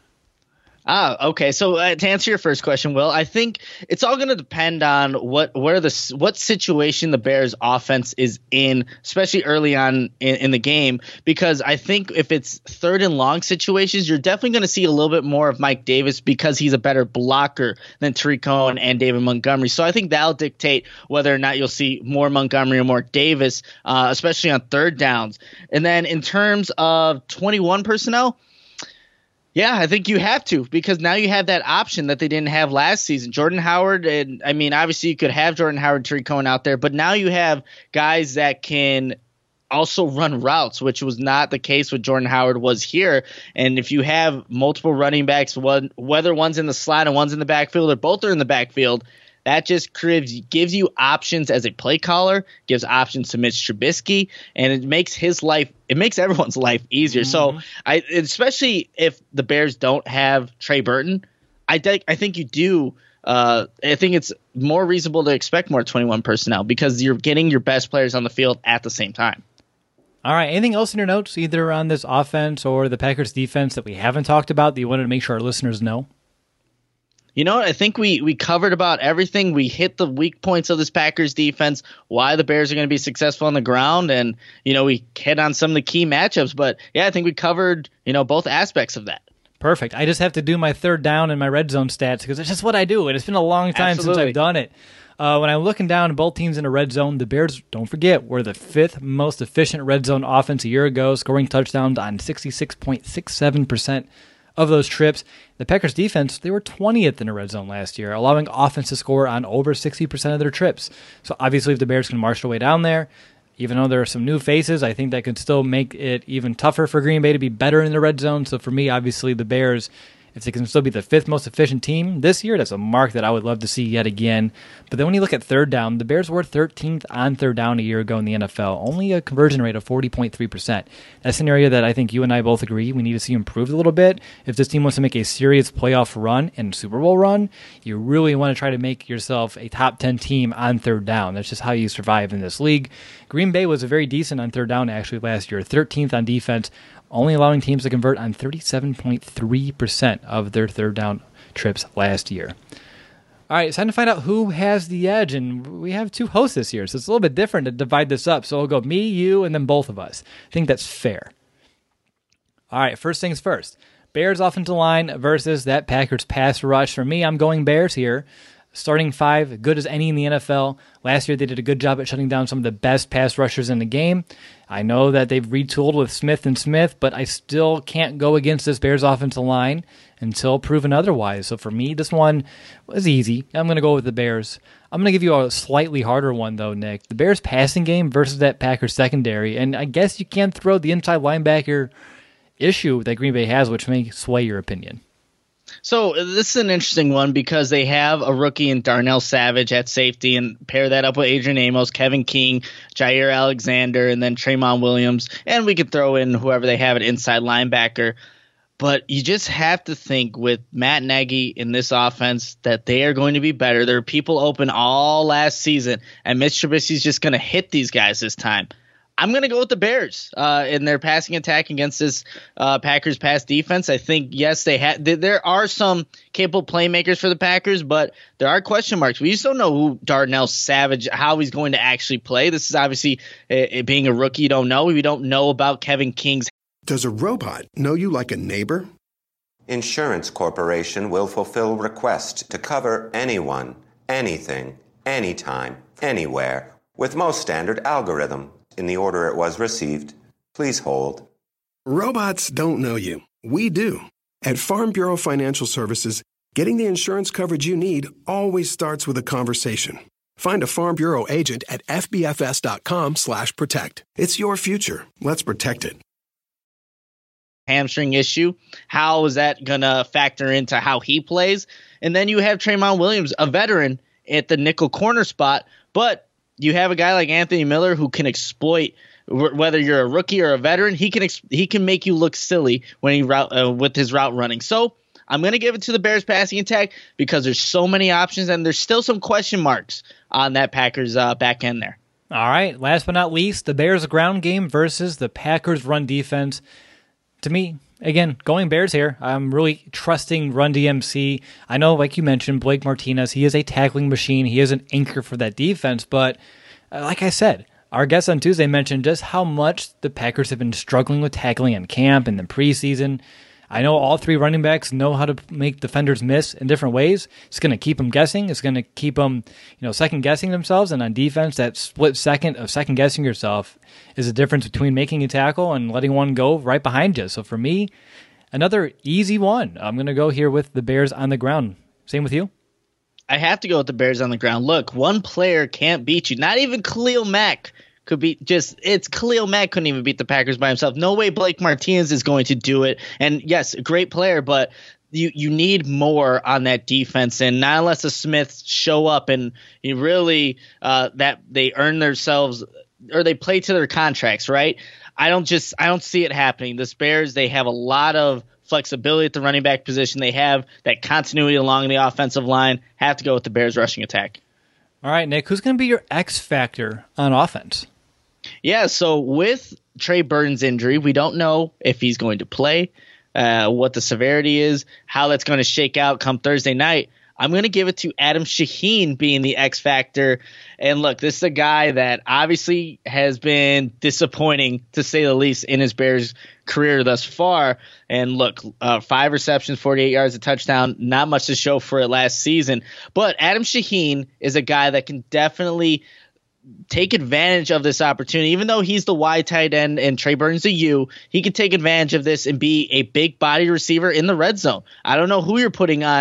Ah, okay. So uh, to answer your first question, Will, I think it's all going to depend on what where the what situation the Bears offense is in, especially early on in, in the game, because I think if it's third and long situations, you're definitely going to see a little bit more of Mike Davis because he's a better blocker than Tarik Cohen and David Montgomery. So I think that'll dictate whether or not you'll see more Montgomery or more Davis, uh, especially on third downs. And then in terms of twenty-one personnel, yeah, I think you have to, because now you have that option that they didn't have last season. Jordan Howard, and I mean, obviously you could have Jordan Howard, Tarik Cohen out there, but now you have guys that can also run routes, which was not the case with Jordan Howard was here. And if you have multiple running backs, one, whether one's in the slot and one's in the backfield or both are in the backfield, that just gives you options as a play caller, gives options to Mitch Trubisky, and it makes his life, it makes everyone's life easier. Mm-hmm. So, I especially if the Bears don't have Trey Burton, I think I think you do. Uh, I think it's more reasonable to expect more twenty-one personnel because you're getting your best players on the field at the same time. All right. Anything else in your notes, either on this offense or the Packers defense that we haven't talked about that you wanted to make sure our listeners know? You know what? I think we, we covered about everything. We hit the weak points of this Packers defense, why the Bears are going to be successful on the ground, and, you know, we hit on some of the key matchups. But, yeah, I think we covered, you know, both aspects of that. Perfect. I just have to do my third down and my red zone stats because it's just what I do, and it's been a long time Absolutely. since I've done it. Uh, when I'm looking down at both teams in a red zone, the Bears, don't forget, were the fifth most efficient red zone offense a year ago, scoring touchdowns on sixty-six point six seven percent of those trips. The Packers defense, they were twentieth in the red zone last year, allowing offense to score on over sixty percent of their trips. So obviously if the Bears can march their way down there, Even though there are some new faces, I think that could still make it even tougher for Green Bay to be better in the red zone. So for me, obviously, the Bears, if they can still be the fifth most efficient team this year, that's a mark that I would love to see yet again. But then when you look at third down, the Bears were thirteenth on third down a year ago in the N F L, only a conversion rate of forty point three percent. That's an area that I think you and I both agree we need to see improved a little bit. If this team wants to make a serious playoff run and Super Bowl run, you really want to try to make yourself a top ten team on third down. That's just how you survive in this league. Green Bay was very decent on third down actually last year, thirteenth on defense, only allowing teams to convert on thirty-seven point three percent of their third down trips last year. All right, it's time to find out who has the edge, and we have two hosts this year, so it's a little bit different to divide this up. So we'll go me, you, and then both of us. I think that's fair. All right, first things first. Bears offensive line versus that Packers pass rush. For me, I'm going Bears here. Starting five, good as any in the N F L. Last year, they did a good job at shutting down some of the best pass rushers in the game. I know that they've retooled with Smith and Smith, but I still can't go against this Bears offensive line until proven otherwise. So for me, this one was easy. I'm going to go with the Bears. I'm going to give you a slightly harder one, though, Nick. The Bears passing game versus that Packers secondary. And I guess you can't throw the inside linebacker issue that Green Bay has, which may sway your opinion. So this is an interesting one because they have a rookie in Darnell Savage at safety, and pair that up with Adrian Amos, Kevin King, Jair Alexander, and then Tremont Williams. And we could throw in whoever they have at inside linebacker. But you just have to think with Matt Nagy in this offense that they are going to be better. There are people open all last season, and Mitch Trubisky's just going to hit these guys this time. I'm going to go with the Bears uh, in their passing attack against this uh, Packers pass defense. I think, yes, they ha- th- there are some capable playmakers for the Packers, but there are question marks. We just don't know who Darnell Savage, how he's going to actually play. This is obviously uh, being a rookie. You don't know. We don't know about Kevin King's. Does a robot know you like a neighbor? Insurance Corporation will fulfill requests to cover anyone, anything, anytime, anywhere, with most standard algorithm. In the order it was received. Please hold. Robots don't know you. We do. At Farm Bureau Financial Services, getting the insurance coverage you need always starts with a conversation. Find a Farm Bureau agent at fbfs.com slash protect. It's your future. Let's protect it. Hamstring issue. How is that going to factor into how he plays? And then you have Tremont Williams, a veteran, at the nickel corner spot, but you have a guy like Anthony Miller who can exploit, whether you're a rookie or a veteran, he can ex- he can make you look silly when he route uh, with his route running. So I'm going to give it to the Bears passing attack because there's so many options and there's still some question marks on that Packers uh, back end there. All right, last but not least, the Bears ground game versus the Packers run defense. To me, again, going Bears here. I'm really trusting Run D M C. I know, like you mentioned, Blake Martinez, he is a tackling machine. He is an anchor for that defense. But uh, like I said, our guest on Tuesday mentioned just how much the Packers have been struggling with tackling in camp and the preseason. I know all three running backs know how to make defenders miss in different ways. It's going to keep them guessing. It's going to keep them, you know, second guessing themselves. And on defense, that split second of second guessing yourself is the difference between making a tackle and letting one go right behind you. So for me, another easy one. I'm going to go here with the Bears on the ground. Same with you? I have to go with the Bears on the ground. Look, one player can't beat you. Not even Khalil Mack could be just it's Khalil Mack couldn't even beat the Packers by himself. No way Blake Martinez is going to do it. And yes, a great player, but you you need more on that defense, and not unless the Smiths show up and you really uh, that they earn themselves or they play to their contracts, right? I don't just I don't see it happening. The Bears, they have a lot of flexibility at the running back position. They have that continuity along the offensive line. Have to go with the Bears rushing attack. All right, Nick, who's going to be your X factor on offense? Yeah, so with Trey Burton's injury, we don't know if he's going to play, uh, what the severity is, how that's going to shake out come Thursday night. I'm going to give it to Adam Shaheen being the X factor. And look, this is a guy that obviously has been disappointing, to say the least, in his Bears career thus far. And look, uh, five receptions, forty-eight yards, a touchdown, not much to show for it last season. But Adam Shaheen is a guy that can definitely take advantage of this opportunity. Even though he's the Y tight end and Trey Burton's a U, he can take advantage of this and be a big body receiver in the red zone. I don't know who you're putting on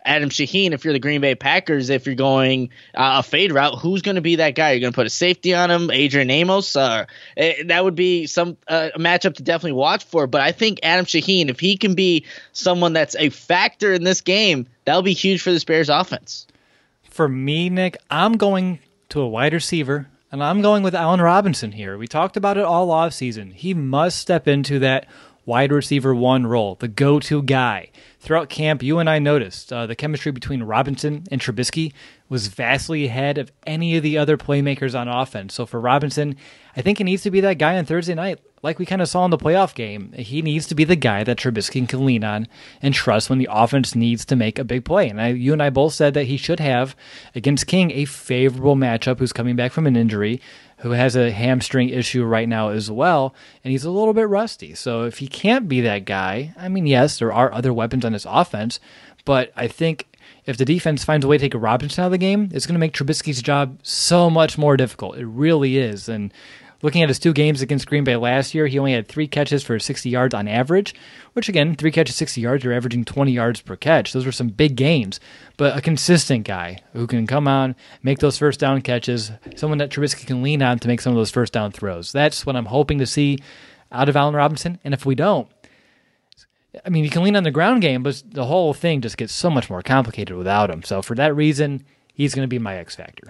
Adam Shaheen, if you're the Green Bay Packers, if you're going uh, a fade route, who's going to be that guy? You're going to put a safety on him, Adrian Amos? Uh, that would be some uh, a matchup to definitely watch for. But I think Adam Shaheen, if he can be someone that's a factor in this game, that'll be huge for this Bears offense. For me, Nick, I'm going to a wide receiver, and I'm going with Allen Robinson here. We talked about it all offseason. He must step into that wide receiver one role, the go-to guy. Throughout camp, you and I noticed uh, the chemistry between Robinson and Trubisky was vastly ahead of any of the other playmakers on offense. So for Robinson, I think he needs to be that guy on Thursday night. Like we kind of saw in the playoff game, he needs to be the guy that Trubisky can lean on and trust when the offense needs to make a big play. And I, you and I both said that he should have, against King, a favorable matchup who's coming back from an injury, who has a hamstring issue right now as well, and he's a little bit rusty. So if he can't be that guy, I mean, yes, there are other weapons on his offense, but I think if the defense finds a way to take a Robinson out of the game, it's going to make Trubisky's job so much more difficult. It really is. And looking at his two games against Green Bay last year, he only had three catches for sixty yards on average, which again, three catches, sixty yards, you're averaging twenty yards per catch. Those were some big games, but a consistent guy who can come on, make those first down catches, someone that Trubisky can lean on to make some of those first down throws. That's what I'm hoping to see out of Allen Robinson. And if we don't, I mean, you can lean on the ground game, but the whole thing just gets so much more complicated without him. So for that reason, he's going to be my X factor.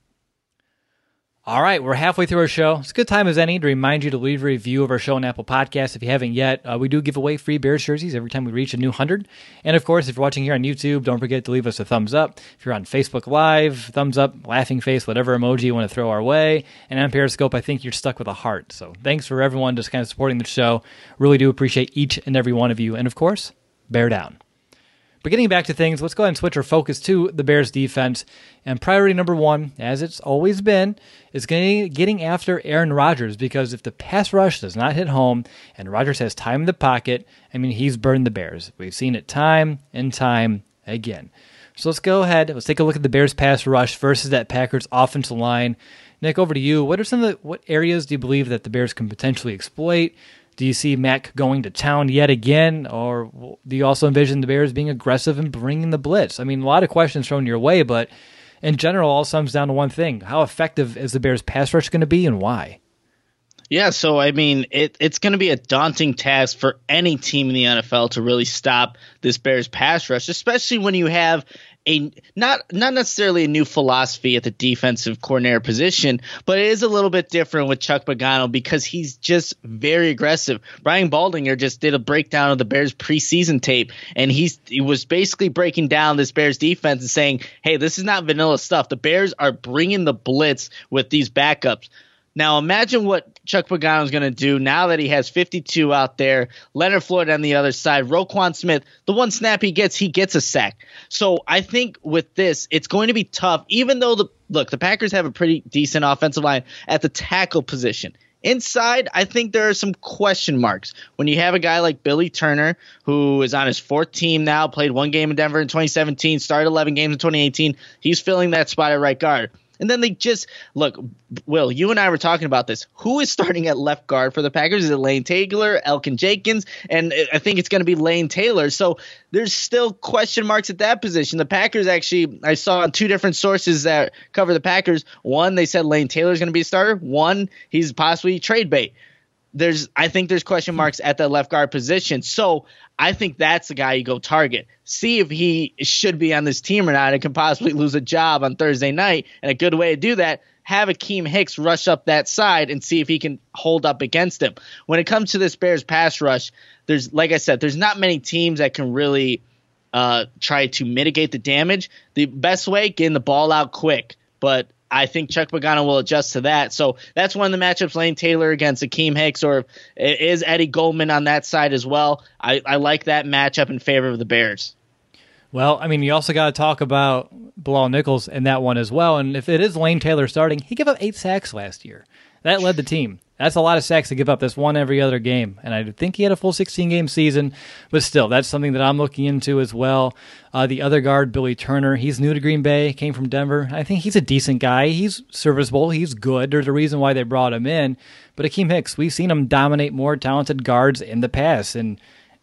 All right, we're halfway through our show. It's a good time as any to remind you to leave a review of our show on Apple Podcasts. If you haven't yet, uh, we do give away free Bears jerseys every time we reach a new one hundred. And of course, if you're watching here on YouTube, don't forget to leave us a thumbs up. If you're on Facebook Live, thumbs up, laughing face, whatever emoji you want to throw our way. And on Periscope, I think you're stuck with a heart. So thanks for everyone just kind of supporting the show. Really do appreciate each and every one of you. And of course, bear down. But getting back to things, let's go ahead and switch our focus to the Bears defense. And priority number one, as it's always been, is getting, getting after Aaron Rodgers, because if the pass rush does not hit home and Rodgers has time in the pocket, I mean, he's burned the Bears. We've seen it time and time again. So let's go ahead. Let's take a look at the Bears pass rush versus that Packers offensive line. Nick, over to you. What are some of the, what areas do you believe that the Bears can potentially exploit? Do you see Mac going to town yet again, or do you also envision the Bears being aggressive and bringing the blitz? I mean, a lot of questions thrown your way, but in general, all comes down to one thing. How effective is the Bears pass rush going to be, and why? Yeah, so, I mean, it, it's going to be a daunting task for any team in the N F L to really stop this Bears pass rush, especially when you have a not not necessarily a new philosophy at the defensive coordinator position, but it is a little bit different with Chuck Pagano because he's just very aggressive. Brian Baldinger just did a breakdown of the Bears preseason tape, and he's he was basically breaking down this Bears defense and saying, hey, this is not vanilla stuff. The Bears are bringing the blitz with these backups. Now imagine what Chuck Pagano is going to do now that he has fifty-two out there, Leonard Floyd on the other side, Roquan Smith, the one snap he gets, he gets a sack. So I think with this, it's going to be tough, even though, the look, the Packers have a pretty decent offensive line at the tackle position. Inside, I think there are some question marks. When you have a guy like Billy Turner, who is on his fourth team now, played one game in Denver in twenty seventeen, started eleven games in twenty eighteen, he's filling that spot at right guard. And then they just – look, Will, you and I were talking about this. Who is starting at left guard for the Packers? Is it Lane Taylor, Elkin Jenkins? And I think it's going to be Lane Taylor. So there's still question marks at that position. The Packers actually – I saw on two different sources that cover the Packers. One, they said Lane Taylor is going to be a starter. One, he's possibly trade bait. There's, I think there's question marks at the left guard position. So I think that's the guy you go target. See if he should be on this team or not and can possibly lose a job on Thursday night. And a good way to do that, have Akeem Hicks rush up that side and see if he can hold up against him. When it comes to this Bears pass rush, there's, like I said, there's not many teams that can really uh, try to mitigate the damage. The best way, getting the ball out quick. But I think Chuck Pagano will adjust to that. So that's one of the matchups, Lane Taylor against Akeem Hicks, or is Eddie Goldman on that side as well. I, I like that matchup in favor of the Bears. Well, I mean, you also got to talk about Bilal Nichols in that one as well. And if it is Lane Taylor starting, he gave up eight sacks last year. That led the team. That's a lot of sacks to give up. That's one every other game. And I think he had a full sixteen-game season. But still, that's something that I'm looking into as well. Uh, the other guard, Billy Turner, he's new to Green Bay, came from Denver. I think he's a decent guy. He's serviceable. He's good. There's a reason why they brought him in. But Akeem Hicks, we've seen him dominate more talented guards in the past. And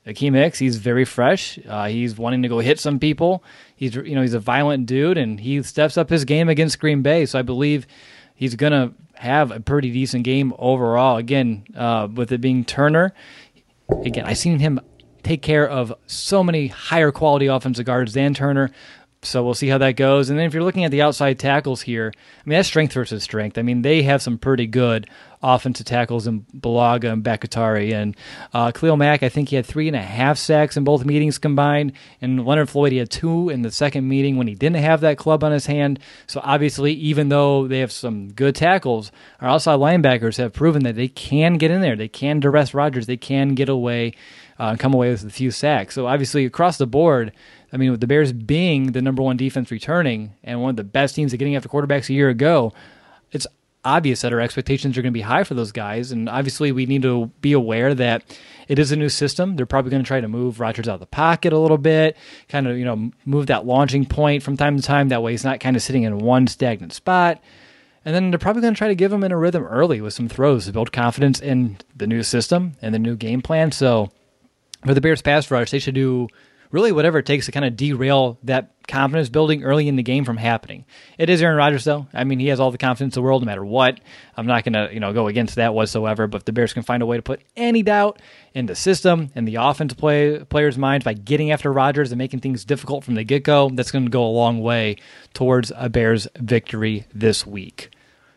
Akeem Hicks, he's very fresh. Uh, he's wanting to go hit some people. He's you know he's a violent dude, and he steps up his game against Green Bay. So I believe he's going to have a pretty decent game overall. Again, uh, with it being Turner, again, I've seen him take care of so many higher quality offensive guards than Turner. So we'll see how that goes. And then if you're looking at the outside tackles here, I mean, that's strength versus strength. I mean, they have some pretty good offensive tackles in Bulaga and Bakatari. And uh, Khalil Mack, I think he had three and a half sacks in both meetings combined. And Leonard Floyd, he had two in the second meeting when he didn't have that club on his hand. So obviously, even though they have some good tackles, our outside linebackers have proven that they can get in there. They can duress Rodgers. They can get away uh, and come away with a few sacks. So obviously, across the board, I mean, with the Bears being the number one defense returning and one of the best teams at getting after quarterbacks a year ago, it's obvious that our expectations are going to be high for those guys. And obviously, we need to be aware that it is a new system. They're probably going to try to move Rodgers out of the pocket a little bit, kind of, you know, move that launching point from time to time. That way, he's not kind of sitting in one stagnant spot. And then they're probably going to try to give him in a rhythm early with some throws to build confidence in the new system and the new game plan. So for the Bears pass rush, they should do really whatever it takes to kind of derail that confidence building early in the game from happening. It is Aaron Rodgers, though. I mean, he has all the confidence in the world no matter what. I'm not going to you know, go against that whatsoever, but if the Bears can find a way to put any doubt in the system and the offensive play, players' minds by getting after Rodgers and making things difficult from the get-go, that's going to go a long way towards a Bears victory this week.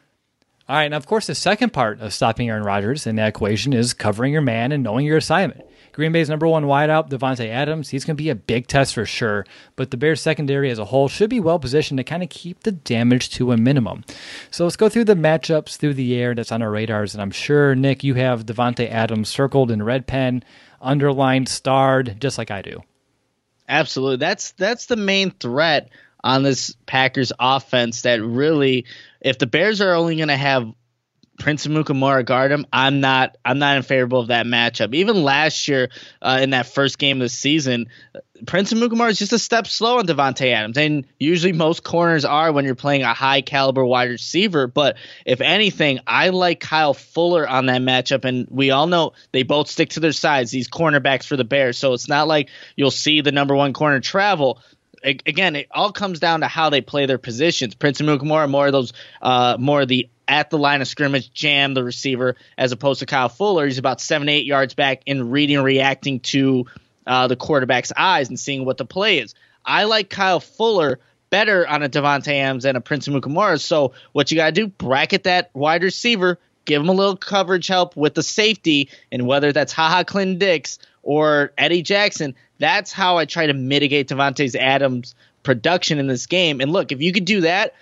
All right, and of course, the second part of stopping Aaron Rodgers in that equation is covering your man and knowing your assignment. Green Bay's number one wideout, Davante Adams, he's going to be a big test for sure, but the Bears secondary as a whole should be well positioned to kind of keep the damage to a minimum. So let's go through the matchups through the air that's on our radars, and I'm sure, Nick, you have Davante Adams circled in red pen, underlined, starred, just like I do. Absolutely. That's that's the main threat on this Packers offense that really, if the Bears are only going to have Prince Amukamara guard him, I'm not I'm not in favor of that matchup. Even last year uh, in that first game of the season, Prince Amukamara is just a step slow on Davante Adams. And usually most corners are when you're playing a high caliber wide receiver. But if anything, I like Kyle Fuller on that matchup. And we all know they both stick to their sides, these cornerbacks for the Bears. So it's not like you'll see the number one corner travel. Again, it all comes down to how they play their positions. Prince Amukamara, more of those, uh, more of the at the line of scrimmage, jam the receiver, as opposed to Kyle Fuller. He's about seven, eight yards back in reading and reacting to uh, the quarterback's eyes and seeing what the play is. I like Kyle Fuller better on a Davante Adams than a Prince Amukamara. So what you got to do, bracket that wide receiver, give him a little coverage help with the safety, and whether that's HaHa Clinton Dix or Eddie Jackson, that's how I try to mitigate Davante Adams' production in this game. And look, if you could do that,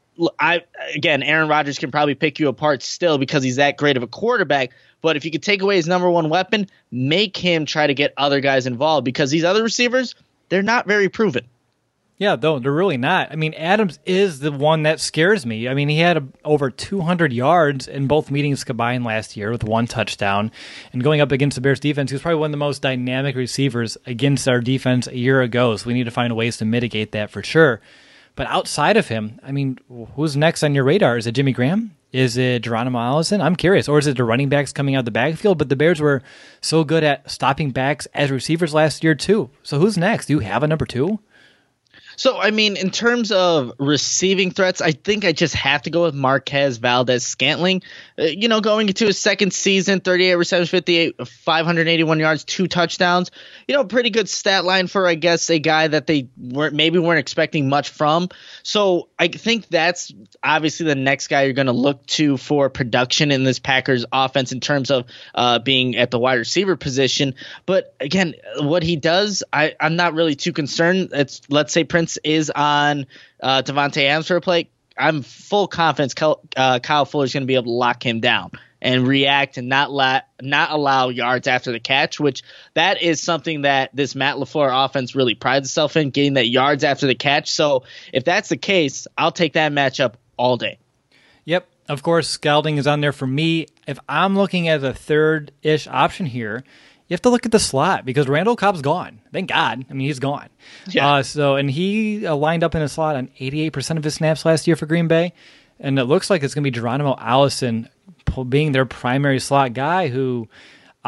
I again, Aaron Rodgers can probably pick you apart still because he's that great of a quarterback. But if you could take away his number one weapon, make him try to get other guys involved, because these other receivers, they're not very proven. Yeah, though they're really not. I mean, Adams is the one that scares me. I mean, he had a, over two hundred yards in both meetings combined last year with one touchdown. And going up against the Bears defense, he was probably one of the most dynamic receivers against our defense a year ago. So we need to find ways to mitigate that for sure. But outside of him, I mean, who's next on your radar? Is it Jimmy Graham? Is it Geronimo Allison? I'm curious. Or is it the running backs coming out of the backfield? But the Bears were so good at stopping backs as receivers last year, too. So who's next? Do you have a number two? So, I mean, in terms of receiving threats, I think I just have to go with Marquez Valdes-Scantling. Uh, you know, going into his second season, thirty-eight receptions, fifty-eight, five hundred eighty-one yards, two touchdowns. You know, pretty good stat line for, I guess, a guy that they weren't maybe weren't expecting much from. So I think that's obviously the next guy you're going to look to for production in this Packers offense in terms of uh, being at the wide receiver position. But again, what he does, I, I'm not really too concerned. It's, let's say Prince is on uh, Davante Adams for a play. I'm full confidence Kyle, uh, Kyle Fuller is going to be able to lock him down and react and not la- not allow yards after the catch, which that is something that this Matt LaFleur offense really prides itself in, getting that yards after the catch. So if that's the case, I'll take that matchup all day. Yep. Of course, Scouting is on there for me. If I'm looking at a third-ish option here, you have to look at the slot because Randall Cobb's gone. Thank God. I mean, he's gone. Yeah. Uh, so, and he uh, lined up in a slot on eighty-eight percent of his snaps last year for Green Bay. And it looks like it's going to be Geronimo Allison being their primary slot guy who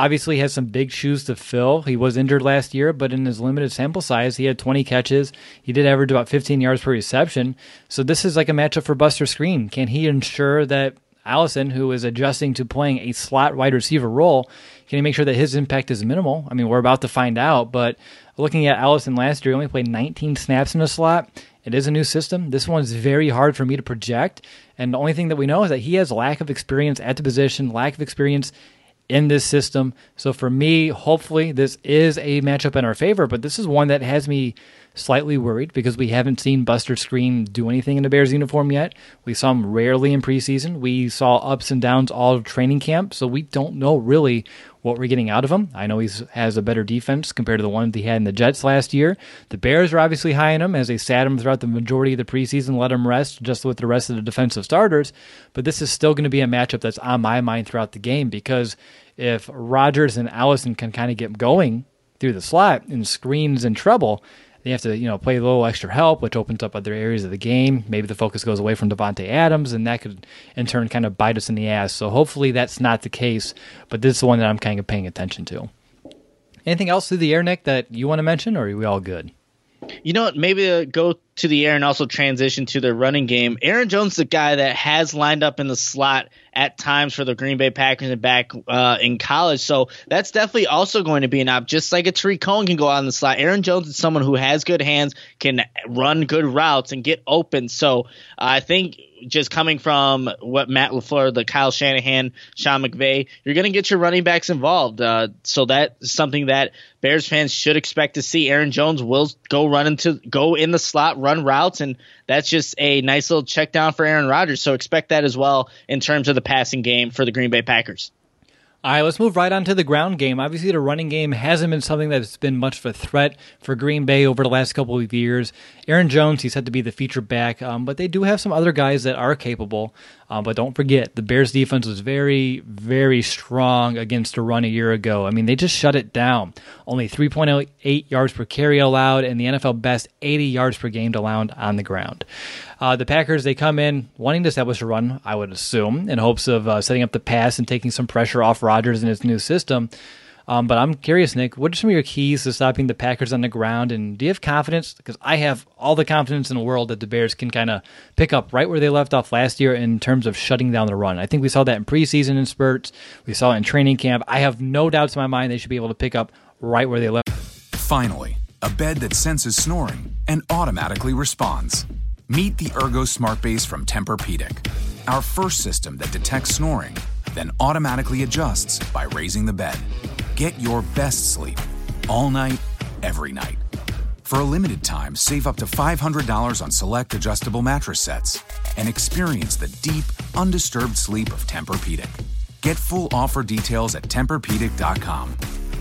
obviously has some big shoes to fill. He was injured last year, but in his limited sample size, he had twenty catches. He did average about fifteen yards per reception. So this is like a matchup for Buster Skrine. Can he ensure that Allison, who is adjusting to playing a slot wide receiver role, can he make sure that his impact is minimal? I mean, we're about to find out, but looking at Allison last year, he only played nineteen snaps in the slot. It is a new system. This one's very hard for me to project, and the only thing that we know is that he has lack of experience at the position, lack of experience in this system. So for me, hopefully this is a matchup in our favor, but this is one that has me slightly worried because we haven't seen Buster Skrine do anything in the Bears uniform yet. We saw him rarely in preseason. We saw ups and downs all training camp, so we don't know really what we're getting out of him. I know he has a better defense compared to the one that he had in the Jets last year. The Bears are obviously high on him as they sat him throughout the majority of the preseason, let him rest just with the rest of the defensive starters, but this is still going to be a matchup that's on my mind throughout the game because if Rodgers and Allison can kind of get going through the slot and Skrine's in trouble, they have to, you know, play a little extra help, which opens up other areas of the game. Maybe the focus goes away from Devontae Adams, and that could, in turn, kind of bite us in the ass. So hopefully that's not the case, but this is the one that I'm kind of paying attention to. Anything else through the air, Nick, that you want to mention, or are we all good? You know what? Maybe uh, go to the air and also transition to their running game. Aaron Jones is a guy that has lined up in the slot at times for the Green Bay Packers and back uh, in college. So that's definitely also going to be an op. Just like a Tariq Cohen can go out in the slot, Aaron Jones is someone who has good hands, can run good routes, and get open. So uh, I think just coming from what Matt LaFleur, the Kyle Shanahan, Sean McVay, you're going to get your running backs involved. Uh, so that's something that Bears fans should expect to see. Aaron Jones will go run into go in the slot, run routes, and that's just a nice little check down for Aaron Rodgers. So expect that as well in terms of the passing game for the Green Bay Packers. All right, let's move right on to the ground game. Obviously, the running game hasn't been something that's been much of a threat for Green Bay over the last couple of years. Aaron Jones, he's had to be the feature back, um, but they do have some other guys that are capable. Um, but don't forget, the Bears defense was very, very strong against the run a year ago. I mean, they just shut it down. Only three point eight yards per carry allowed, and the N F L best eighty yards per game allowed on the ground. Uh, the Packers, they come in wanting to establish a run, I would assume, in hopes of uh, setting up the pass and taking some pressure off Rodgers and his new system. Um, but I'm curious, Nick, what are some of your keys to stopping the Packers on the ground? And do you have confidence? Because I have all the confidence in the world that the Bears can kind of pick up right where they left off last year in terms of shutting down the run. I think we saw that in preseason in spurts. We saw it in training camp. I have no doubts in my mind they should be able to pick up right where they left. Finally, a bed that senses snoring and automatically responds. Meet the Ergo Smart Base from Tempur-Pedic, our first system that detects snoring, then automatically adjusts by raising the bed. Get your best sleep all night, every night. For a limited time, save up to five hundred dollars on select adjustable mattress sets and experience the deep, undisturbed sleep of Tempur-Pedic. Get full offer details at Tempur Pedic dot com.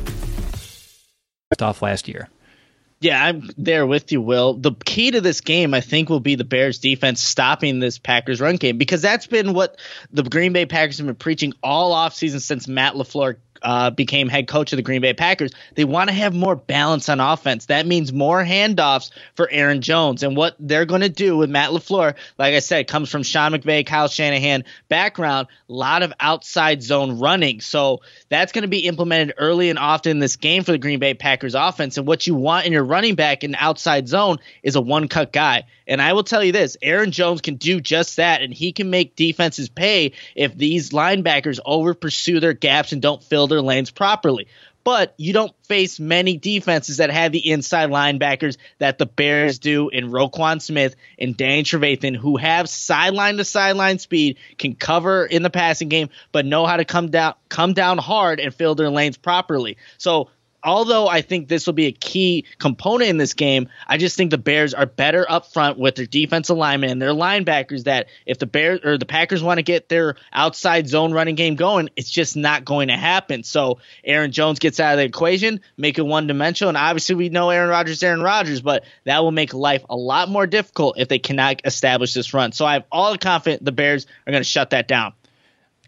Off last year. Yeah, I'm there with you, Will. The key to this game, I think, will be the Bears defense stopping this Packers run game, because that's been what the Green Bay Packers have been preaching all offseason since Matt LaFleur Uh, became head coach of the Green Bay Packers. They want to have more balance on offense. That means more handoffs for Aaron Jones. And what they're going to do with Matt LaFleur, like I said, comes from Sean McVay, Kyle Shanahan background, a lot of outside zone running. So that's going to be implemented early and often in this game for the Green Bay Packers offense. And what you want in your running back in the outside zone is a one-cut guy. And I will tell you this, Aaron Jones can do just that, and he can make defenses pay if these linebackers over-pursue their gaps and don't fill their lanes properly. But you don't face many defenses that have the inside linebackers that the Bears do in Roquan Smith and Danny Trevathan, who have sideline-to-sideline speed, can cover in the passing game, but know how to come down, come down hard and fill their lanes properly. So although I think this will be a key component in this game, I just think the Bears are better up front with their defensive linemen and their linebackers, that if the Bears or the Packers want to get their outside zone running game going, it's just not going to happen. So Aaron Jones gets out of the equation, make it one-dimensional, and obviously we know Aaron Rodgers, Aaron Rodgers, but that will make life a lot more difficult if they cannot establish this run. So I have all the confidence the Bears are going to shut that down.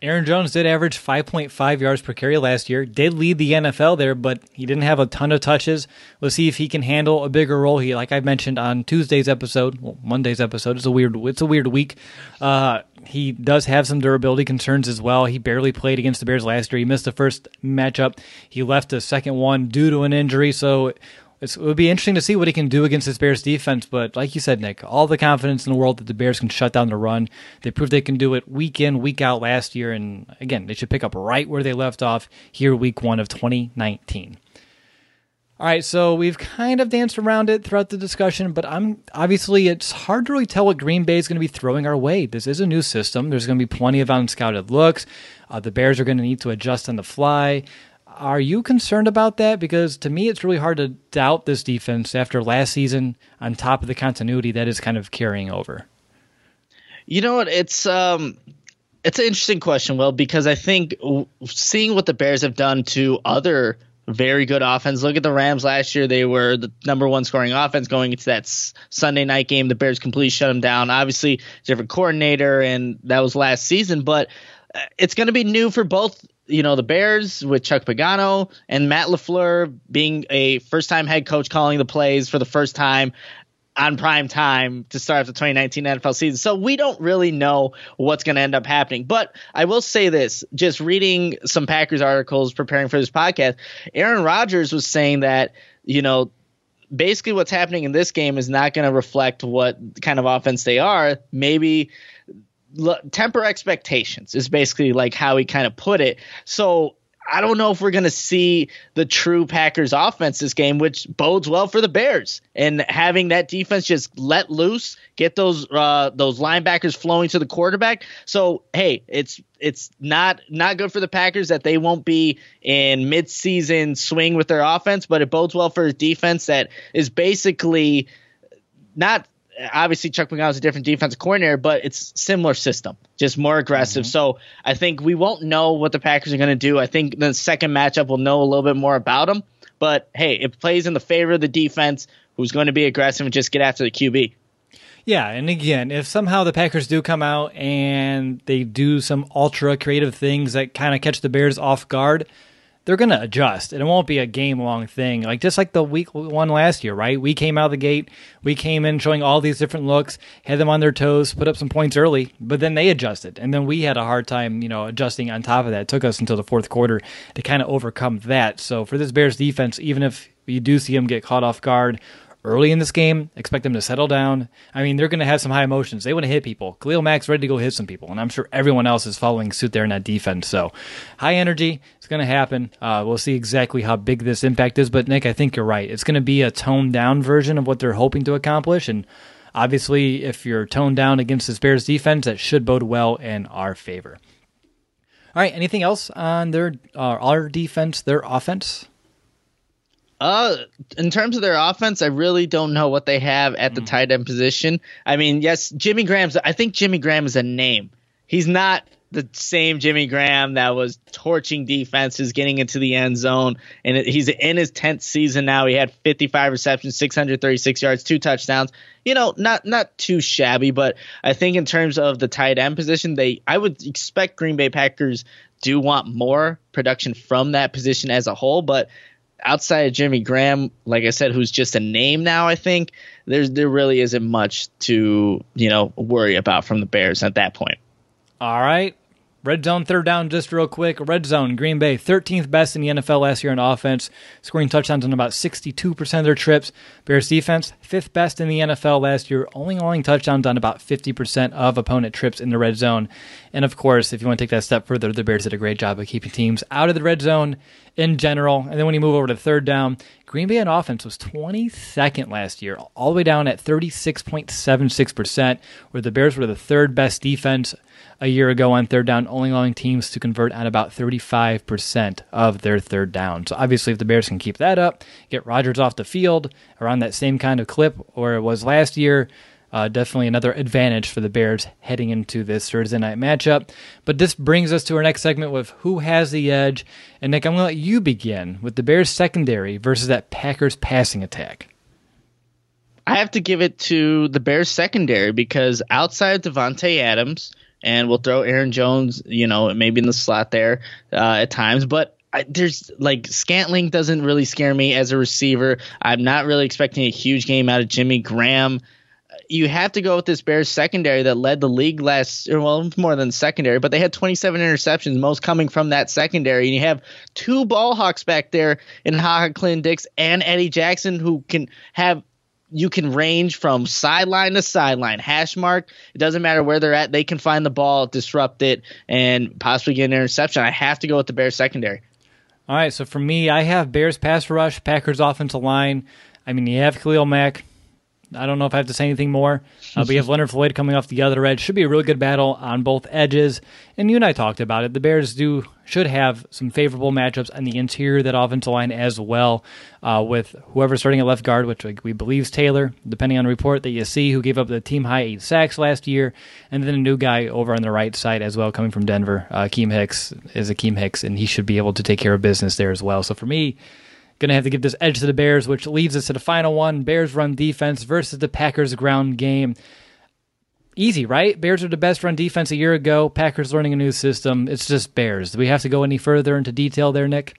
Aaron Jones did average five point five yards per carry last year, did lead the N F L there, but he didn't have a ton of touches. We'll see if he can handle a bigger role. He, like I mentioned on Tuesday's episode, well, Monday's episode, it's a weird, it's a weird week. Uh, he does have some durability concerns as well. He barely played against the Bears last year. He missed the first matchup. He left the second one due to an injury, so It's, it would be interesting to see what he can do against this Bears defense, but like you said, Nick, all the confidence in the world that the Bears can shut down the run. They proved they can do it week in, week out last year, and again, they should pick up right where they left off here week one of twenty nineteen. All right, so we've kind of danced around it throughout the discussion, but I'm obviously it's hard to really tell what Green Bay is going to be throwing our way. This is a new system. There's going to be plenty of unscouted looks. Uh, the Bears are going to need to adjust on the fly. Are you concerned about that? Because to me, it's really hard to doubt this defense after last season on top of the continuity that is kind of carrying over. You know what? It's um, it's an interesting question, Will, because I think seeing what the Bears have done to other very good offense. Look at the Rams last year. They were the number one scoring offense going into that s- Sunday night game. The Bears completely shut them down. Obviously, different coordinator, and that was last season. But it's going to be new for both, you know, the Bears with Chuck Pagano and Matt LaFleur being a first-time head coach calling the plays for the first time on prime time to start the twenty nineteen N F L season. So we don't really know what's going to end up happening. But I will say this, just reading some Packers articles preparing for this podcast, Aaron Rodgers was saying that, you know, basically what's happening in this game is not going to reflect what kind of offense they are. Maybe l- temper expectations is basically like how he kind of put it. So I don't know if we're going to see the true Packers offense this game, which bodes well for the Bears, and having that defense just let loose, get those uh, those linebackers flowing to the quarterback. So, hey, it's it's not not good for the Packers that they won't be in midseason swing with their offense, but it bodes well for a defense that is basically not – obviously Chuck Pagano is a different defensive coordinator, but it's similar system, just more aggressive. Mm-hmm. So I think we won't know what the Packers are going to do. I think the second matchup we'll know a little bit more about them. But, hey, it plays in the favor of the defense, who's going to be aggressive and just get after the Q B. Yeah, and again, if somehow the Packers do come out and they do some ultra creative things that kind of catch the Bears off guard, they're going to adjust, and it won't be a game-long thing. Like just like the week one last year, right? We came out of the gate, we came in showing all these different looks, had them on their toes, put up some points early, but then they adjusted, and then we had a hard time, you know, adjusting on top of that. It took us until the fourth quarter to kind of overcome that. So for this Bears defense, even if you do see them get caught off guard early in this game, expect them to settle down. I mean, they're going to have some high emotions. They want to hit people. Khalil Mack's ready to go hit some people, and I'm sure everyone else is following suit there in that defense. So high energy, it's going to happen. Uh, we'll see exactly how big this impact is, but Nick, I think you're right. It's going to be a toned-down version of what they're hoping to accomplish, and obviously if you're toned down against this Bears defense, that should bode well in our favor. All right, anything else on their uh, our defense, their offense? Uh, in terms of their offense, I really don't know what they have at the mm. tight end position. I mean, yes, Jimmy Graham's. I think Jimmy Graham is a name. He's not the same Jimmy Graham that was torching defenses, getting into the end zone, and it, he's in his tenth season now. He had fifty-five receptions, six hundred thirty-six yards, two touchdowns. You know, not not too shabby, but I think in terms of the tight end position, they I would expect Green Bay Packers do want more production from that position as a whole, but outside of Jimmy Graham, like I said, who's just a name now, I think there's there really isn't much to, you know, worry about from the Bears at that point. All right. Red zone, third down, just real quick. Red zone, Green Bay, thirteenth best in the N F L last year in offense, scoring touchdowns on about sixty-two percent of their trips. Bears defense, fifth best in the N F L last year, only allowing touchdowns on about fifty percent of opponent trips in the red zone. And of course, if you want to take that a step further, the Bears did a great job of keeping teams out of the red zone in general. And then when you move over to third down, Green Bay on offense was twenty-second last year, all the way down at thirty-six point seven six percent, where the Bears were the third best defense a year ago on third down, only allowing teams to convert on about thirty-five percent of their third down. So obviously if the Bears can keep that up, get Rodgers off the field around that same kind of clip where it was last year, Uh, definitely another advantage for the Bears heading into this Thursday night matchup. But this brings us to our next segment with who has the edge. And Nick, I'm going to let you begin with the Bears secondary versus that Packers passing attack. I have to give it to the Bears secondary because outside of Devontae Adams, and we'll throw Aaron Jones, you know, maybe in the slot there uh, at times. But I, there's like Scantling doesn't really scare me as a receiver. I'm not really expecting a huge game out of Jimmy Graham. You have to go with this Bears secondary that led the league last, well, more than secondary, but they had twenty-seven interceptions, most coming from that secondary. And you have two ball hawks back there in Ha Ha Clinton-Dix and Eddie Jackson, who can have, you can range from sideline to sideline, hash mark. It doesn't matter where they're at. They can find the ball, disrupt it, and possibly get an interception. I have to go with the Bears secondary. All right, so for me, I have Bears pass rush, Packers offensive line. I mean, you have Khalil Mack. I don't know if I have to say anything more. Uh, we have Leonard Floyd coming off the other edge. Should be a really good battle on both edges. And you and I talked about it. The Bears do should have some favorable matchups on the interior of that offensive line as well, uh, with whoever's starting at left guard, which we believe is Taylor, depending on the report that you see, who gave up the team-high eight sacks last year, and then a new guy over on the right side as well coming from Denver. Uh, Akeem Hicks is Akeem Hicks, and he should be able to take care of business there as well. So for me, going to have to give this edge to the Bears, which leads us to the final one, Bears run defense versus the Packers ground game. Easy, right? Bears are the best run defense a year ago. Packers learning a new system. It's just Bears. Do we have to go any further into detail there, Nick?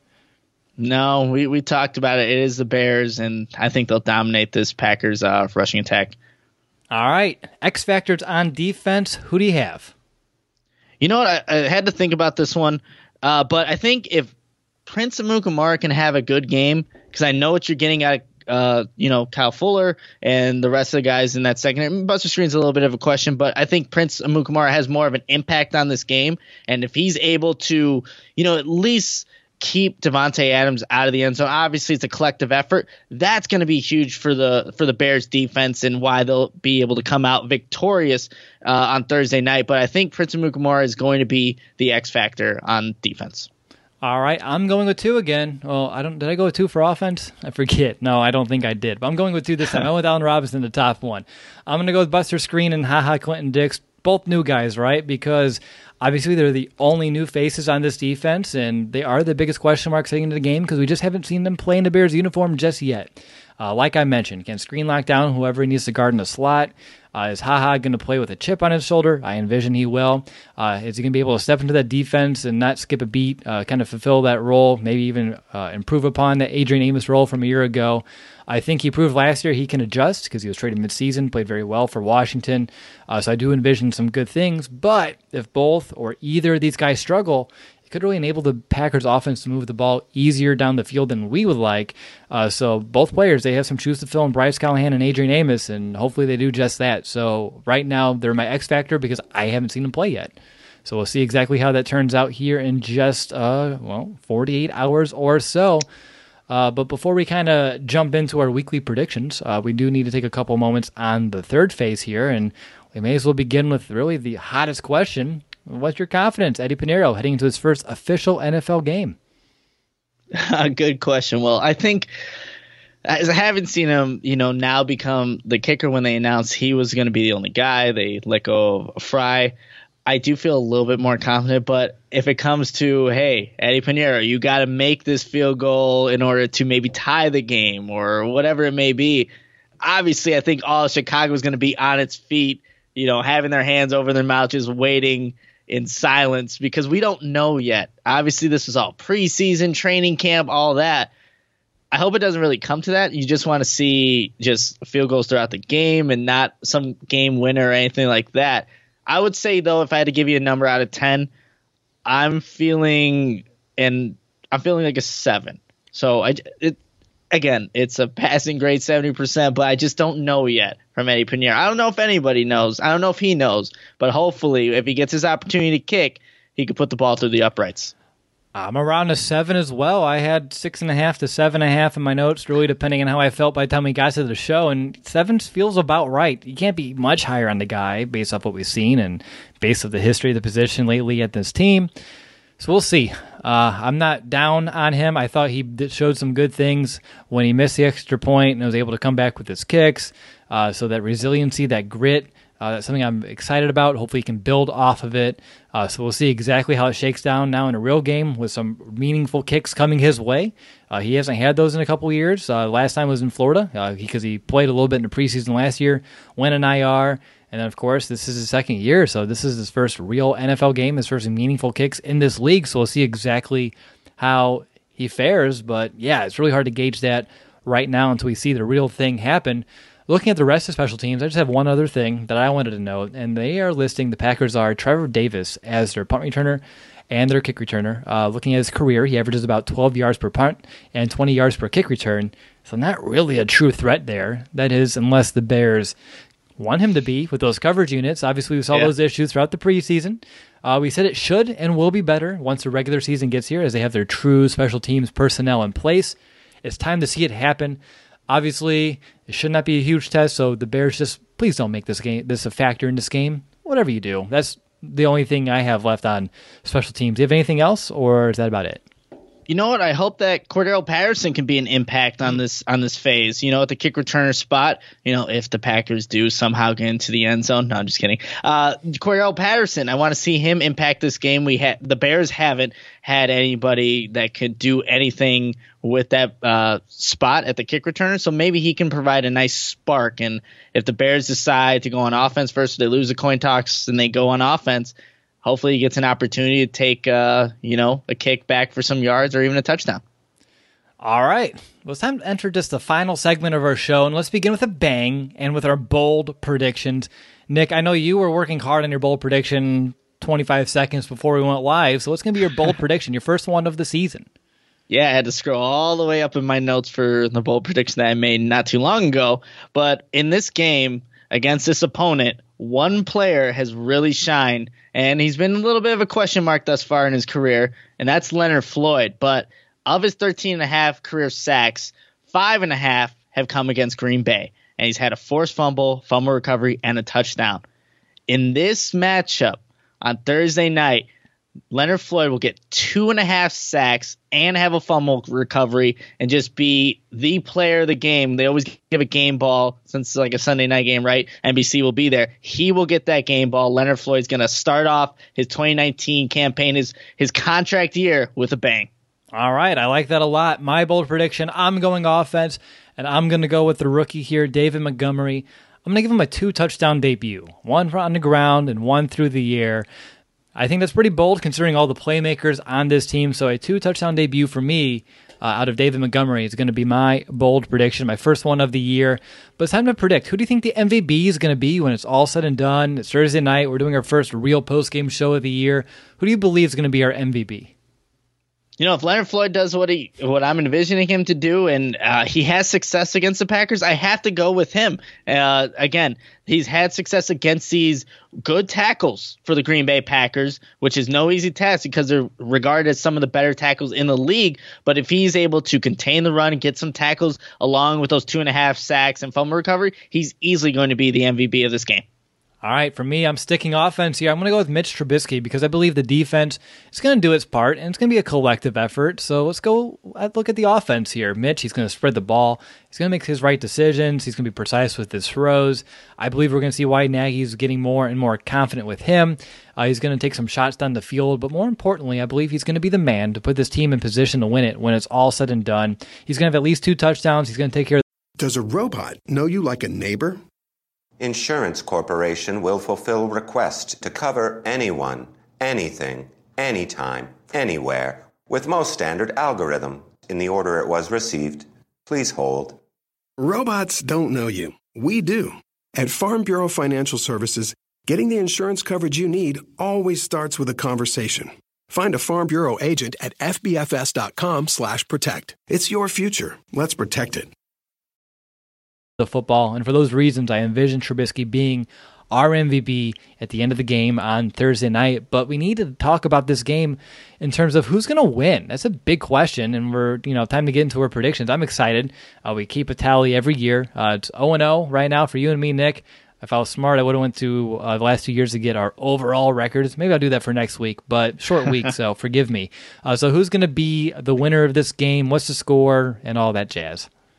No, we, we talked about it. It is the Bears, and I think they'll dominate this Packers uh, rushing attack. All right. X factors on defense. Who do you have? You know what? I, I had to think about this one, uh, but I think if Prince Amukamara can have a good game, because I know what you're getting at, uh, you know, Kyle Fuller and the rest of the guys in that second. Buster Skrine's a little bit of a question, but I think Prince Amukamara has more of an impact on this game. And if he's able to, you know, at least keep Devontae Adams out of the end zone, obviously it's a collective effort. That's going to be huge for the for the Bears defense and why they'll be able to come out victorious uh, on Thursday night. But I think Prince Amukamara is going to be the X factor on defense. All right, I'm going with two again. Well, I don't. Did I go with two for offense? I forget. No, I don't think I did. But I'm going with two this time. I went with Allen Robinson, the top one. I'm going to go with Buster Skrine and Ha Ha Clinton-Dix, both new guys, right? Because obviously they're the only new faces on this defense, and they are the biggest question marks heading into the game because we just haven't seen them play in the Bears uniform just yet. Uh, like I mentioned, can Skrine lock down whoever he needs to guard in the slot? Uh, is Ha Ha going to play with a chip on his shoulder? I envision he will. Uh, is he going to be able to step into that defense and not skip a beat, uh, kind of fulfill that role, maybe even uh, improve upon that Adrian Amos role from a year ago? I think he proved last year he can adjust because he was traded midseason, played very well for Washington. Uh, so I do envision some good things. But if both or either of these guys struggle, could really enable the Packers offense to move the ball easier down the field than we would like. Uh, so both players, they have some shoes to fill in Bryce Callahan and Adrian Amos, and hopefully they do just that. So right now they're my X factor because I haven't seen them play yet. So we'll see exactly how that turns out here in just, uh, well, forty-eight hours or so. Uh, but before we kind of jump into our weekly predictions, uh, we do need to take a couple moments on the third phase here, and we may as well begin with really the hottest question. What's your confidence, Eddie Pinheiro, heading into his first official N F L game? Good question. Well, I think as I haven't seen him, you know, now become the kicker when they announced he was going to be the only guy. They let go of Fry. I do feel a little bit more confident, but if it comes to, hey, Eddie Pinheiro, you got to make this field goal in order to maybe tie the game or whatever it may be, obviously I think all of Chicago is going to be on its feet, you know, having their hands over their mouth, just waiting in silence because we don't know yet. Obviously, this is all preseason, training camp, all that. I hope it doesn't really come to that. You just want to see just field goals throughout the game and not some game winner or anything like that. I would say, though, if I had to give you a number out of ten, I'm feeling and I'm feeling like a seven. So I, it, again, it's a passing grade seventy percent, but I just don't know yet from Eddie Pinheiro. I don't know if anybody knows. I don't know if he knows, but hopefully if he gets his opportunity to kick, he could put the ball through the uprights. I'm around a seven as well. I had six and a half to seven and a half in my notes, really depending on how I felt by the time we got to the show. And seven feels about right. You can't be much higher on the guy based off what we've seen and based off the history of the position lately at this team. So we'll see. Uh, I'm not down on him. I thought he showed some good things when he missed the extra point and was able to come back with his kicks. Uh, so that resiliency, that grit, Uh, that's something I'm excited about. Hopefully he can build off of it. Uh, so we'll see exactly how it shakes down now in a real game with some meaningful kicks coming his way. Uh, he hasn't had those in a couple years. Uh, last time was in Florida uh, because he played a little bit in the preseason last year, went in I R, and then, of course, this is his second year, so this is his first real N F L game, his first meaningful kicks in this league, so we'll see exactly how he fares. But, yeah, it's really hard to gauge that right now until we see the real thing happen. Looking at the rest of special teams, I just have one other thing that I wanted to note, and they are listing the Packers are Trevor Davis as their punt returner and their kick returner. Uh, looking at his career, he averages about twelve yards per punt and twenty yards per kick return, so not really a true threat there. That is, unless the Bears want him to be with those coverage units. Obviously, we saw yeah. those issues throughout the preseason. Uh, we said it should and will be better once the regular season gets here as they have their true special teams personnel in place. It's time to see it happen. Obviously, it should not be a huge test, so the Bears just please don't make this game this a factor in this game. Whatever you do, that's the only thing I have left on special teams. Do you have anything else, or is that about it? You know what? I hope that Cordero Patterson can be an impact on this on this phase. You know, at the kick returner spot. You know, if the Packers do somehow get into the end zone. No, I'm just kidding. Uh, Cordero Patterson. I want to see him impact this game. We had the Bears haven't had anybody that could do anything with that uh, spot at the kick returner. So maybe he can provide a nice spark. And if the Bears decide to go on offense first, they lose the coin toss and they go on offense. Hopefully he gets an opportunity to take, uh, you know, a kick back for some yards or even a touchdown. All right. Well, it's time to enter just the final segment of our show, and let's begin with a bang and with our bold predictions. Nick, I know you were working hard on your bold prediction twenty-five seconds before we went live, so what's going to be your bold prediction, your first one of the season? Yeah, I had to scroll all the way up in my notes for the bold prediction that I made not too long ago. But in this game against this opponent, one player has really shined, and he's been a little bit of a question mark thus far in his career, and that's Leonard Floyd. But of his thirteen and a half career sacks, five and a half have come against Green Bay, and he's had a forced fumble, fumble recovery, and a touchdown. In this matchup on Thursday night, Leonard Floyd will get two and a half sacks and have a fumble recovery and just be the player of the game. They always give a game ball since it's like a Sunday night game, right? N B C will be there. He will get that game ball. Leonard Floyd's going to start off his twenty nineteen campaign, his, his contract year, with a bang. All right, I like that a lot. My bold prediction, I'm going offense, and I'm going to go with the rookie here, David Montgomery. I'm going to give him a two-touchdown debut, one on the ground and one through the air. I think that's pretty bold considering all the playmakers on this team. So a two-touchdown debut for me uh, out of David Montgomery is going to be my bold prediction, my first one of the year. But it's time to predict. Who do you think the M V P is going to be when it's all said and done? It's Thursday night. We're doing our first real post-game show of the year. Who do you believe is going to be our M V P? You know, if Leonard Floyd does what he, what I'm envisioning him to do, and uh, he has success against the Packers, I have to go with him. Uh, again, he's had success against these good tackles for the Green Bay Packers, which is no easy task because they're regarded as some of the better tackles in the league. But if he's able to contain the run and get some tackles along with those two and a half sacks and fumble recovery, he's easily going to be the M V P of this game. All right, for me, I'm sticking offense here. I'm going to go with Mitch Trubisky because I believe the defense is going to do its part, and it's going to be a collective effort. So let's go look at the offense here. Mitch, he's going to spread the ball. He's going to make his right decisions. He's going to be precise with his throws. I believe we're going to see why Nagy's getting more and more confident with him. Uh, he's going to take some shots down the field, but more importantly, I believe he's going to be the man to put this team in position to win it when it's all said and done. He's going to have at least two touchdowns. He's going to take care of. Does a robot know you like a neighbor? Insurance Corporation will fulfill requests to cover anyone, anything, anytime, anywhere, with most standard algorithm in the order it was received. Please hold. Robots don't know you. We do. At Farm Bureau Financial Services, getting the insurance coverage you need always starts with a conversation. Find a Farm Bureau agent at fbfs.com slash protect. It's your future. Let's protect it. The football, and for those reasons, I envision Trubisky being our M V P at the end of the game on Thursday night. But we need to talk about this game in terms of who's going to win. That's a big question, and we're you know time to get into our predictions. I'm excited. Uh, we keep a tally every year. Uh, it's oh and oh right now for you and me, Nick. If I was smart, I would have went to uh, the last two years to get our overall records. Maybe I'll do that for next week, but short week, so forgive me. Uh, so who's going to be the winner of this game? What's the score? And all that jazz.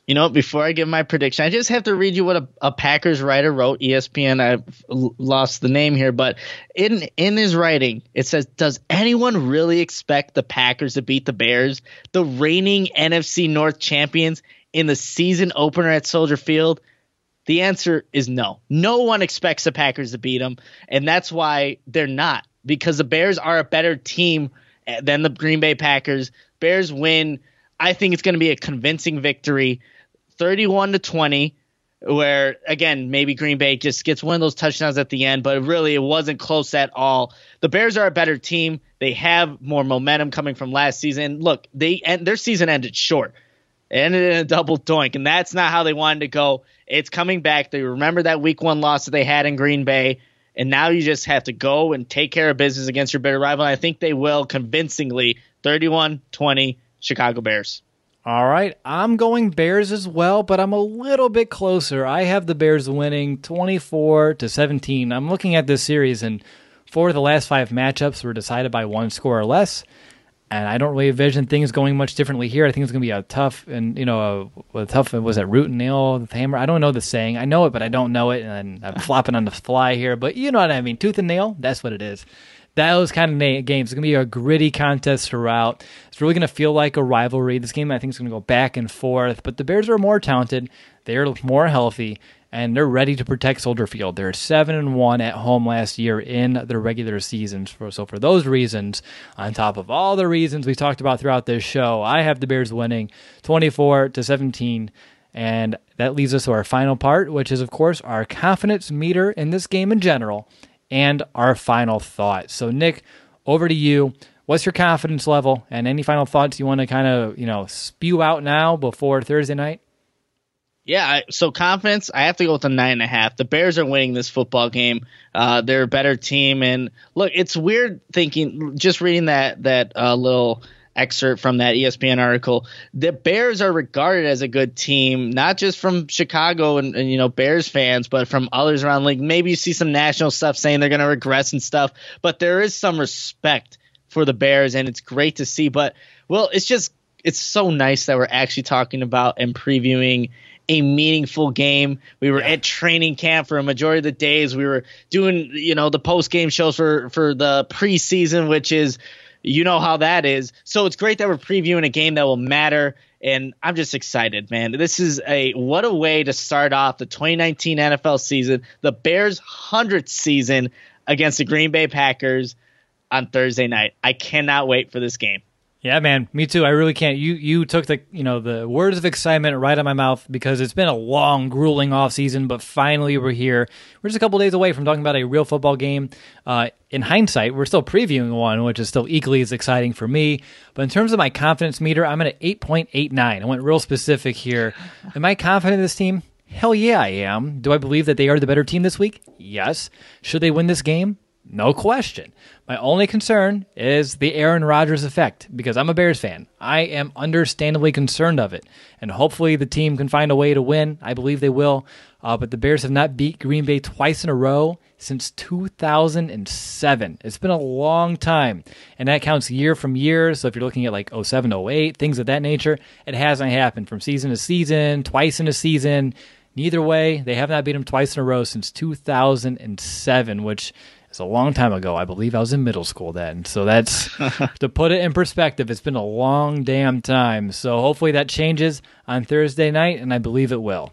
You know, before I give my prediction, I just have to read you what a, a Packers writer wrote. E S P N, I've lost the name here, but in in his writing, it says, does anyone really expect the Packers to beat the Bears, the reigning N F C North champions, in the season opener at Soldier Field? The answer is no. No one expects the Packers to beat them, and that's why they're not, because the Bears are a better team than the Green Bay Packers. Bears win. I think it's going to be a convincing victory. thirty-one to twenty, where, again, maybe Green Bay just gets one of those touchdowns at the end, but really it wasn't close at all. The Bears are a better team. They have more momentum coming from last season. Look, they and their season ended short. It ended in a double doink, and that's not how they wanted to go. It's coming back. They remember that week one loss that they had in Green Bay, and now you just have to go and take care of business against your bitter rival, and I think they will convincingly. thirty-one twenty, Chicago Bears. All right, I'm going Bears as well, but I'm a little bit closer. I have the Bears winning twenty-four to seventeen. I'm looking at this series, and four of the last five matchups were decided by one score or less, and I don't really envision things going much differently here. I think it's going to be a tough, and you know, a, a tough, was that root and nail, the hammer? I don't know the saying. I know it, but I don't know it, and I'm flopping on the fly here, but you know what I mean. Tooth and nail, that's what it is. Those kind of na- games. It's going to be a gritty contest throughout. It's really going to feel like a rivalry. This game, I think, is going to go back and forth. But the Bears are more talented. They're more healthy, and they're ready to protect Soldier Field. They're seven and one at home last year in their regular seasons. So for those reasons, on top of all the reasons we talked about throughout this show, I have the Bears winning twenty-four to seventeen. And that leads us to our final part, which is, of course, our confidence meter in this game in general, and our final thoughts. So, Nick, over to you. What's your confidence level, and any final thoughts you want to kind of, you know, spew out now before Thursday night? Yeah, I, so confidence, I have to go with a nine and a half. The Bears are winning this football game. Uh, they're a better team, and look, it's weird thinking, just reading that that uh, little excerpt from that E S P N article. The Bears are regarded as a good team, not just from Chicago and, and you know Bears fans, but from others around the league. Maybe you see some national stuff saying they're going to regress and stuff, but there is some respect for the Bears, and it's great to see. But well, it's just it's so nice that we're actually talking about and previewing a meaningful game. We were yeah. at training camp for a majority of the days. We were doing you know the post game shows for for the preseason, which is. You know how that is. So it's great that we're previewing a game that will matter, and I'm just excited, man. This is a what a way to start off the twenty nineteen N F L season, the Bears' hundredth season against the Green Bay Packers on Thursday night. I cannot wait for this game. Yeah, man, me too. I really can't. You you took the you know the words of excitement right out of my mouth, because it's been a long, grueling off season, but finally we're here. We're just a couple days away from talking about a real football game. Uh, in hindsight, we're still previewing one, which is still equally as exciting for me. But in terms of my confidence meter, I'm at an eight point eight nine. I went real specific here. Am I confident in this team? Hell yeah, I am. Do I believe that they are the better team this week? Yes. Should they win this game? No question. My only concern is the Aaron Rodgers effect, because I'm a Bears fan. I am understandably concerned of it, and hopefully the team can find a way to win. I believe they will, uh, but the Bears have not beat Green Bay twice in a row since two thousand seven. It's been a long time, and that counts year from year, so if you're looking at like oh seven, oh eight, things of that nature, it hasn't happened from season to season, twice in a season. Neither way, they have not beat them twice in a row since two thousand seven, which is a long time ago. I believe I was in middle school then. So that's, to put it in perspective, it's been a long damn time. So hopefully that changes on Thursday night, and I believe it will.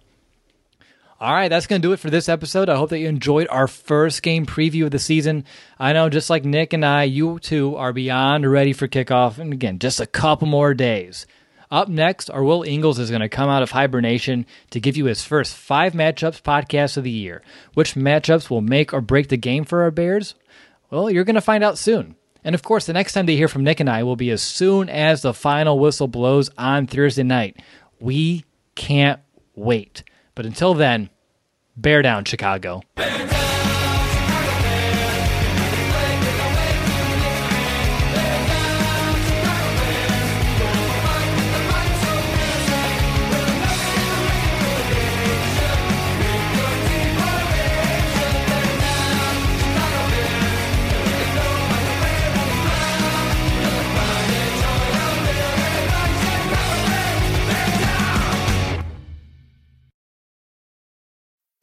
All right, that's going to do it for this episode. I hope that you enjoyed our first game preview of the season. I know, just like Nick and I, you too are beyond ready for kickoff. And again, just a couple more days. Up next, our Will Ingles is going to come out of hibernation to give you his first five matchups podcast of the year. Which matchups will make or break the game for our Bears? Well, you're going to find out soon. And of course, the next time they hear from Nick and I will be as soon as the final whistle blows on Thursday night. We can't wait. But until then, bear down, Chicago.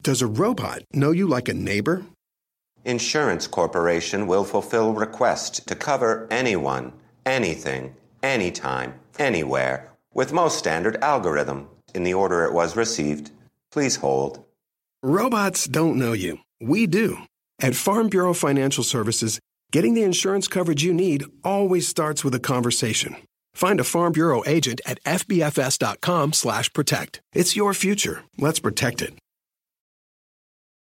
Does a robot know you like a neighbor? Insurance Corporation will fulfill requests to cover anyone, anything, anytime, anywhere, with most standard algorithm in the order it was received. Please hold. Robots don't know you. We do. At Farm Bureau Financial Services, getting the insurance coverage you need always starts with a conversation. Find a Farm Bureau agent at F B F S dot com slash protect. It's your future. Let's protect it.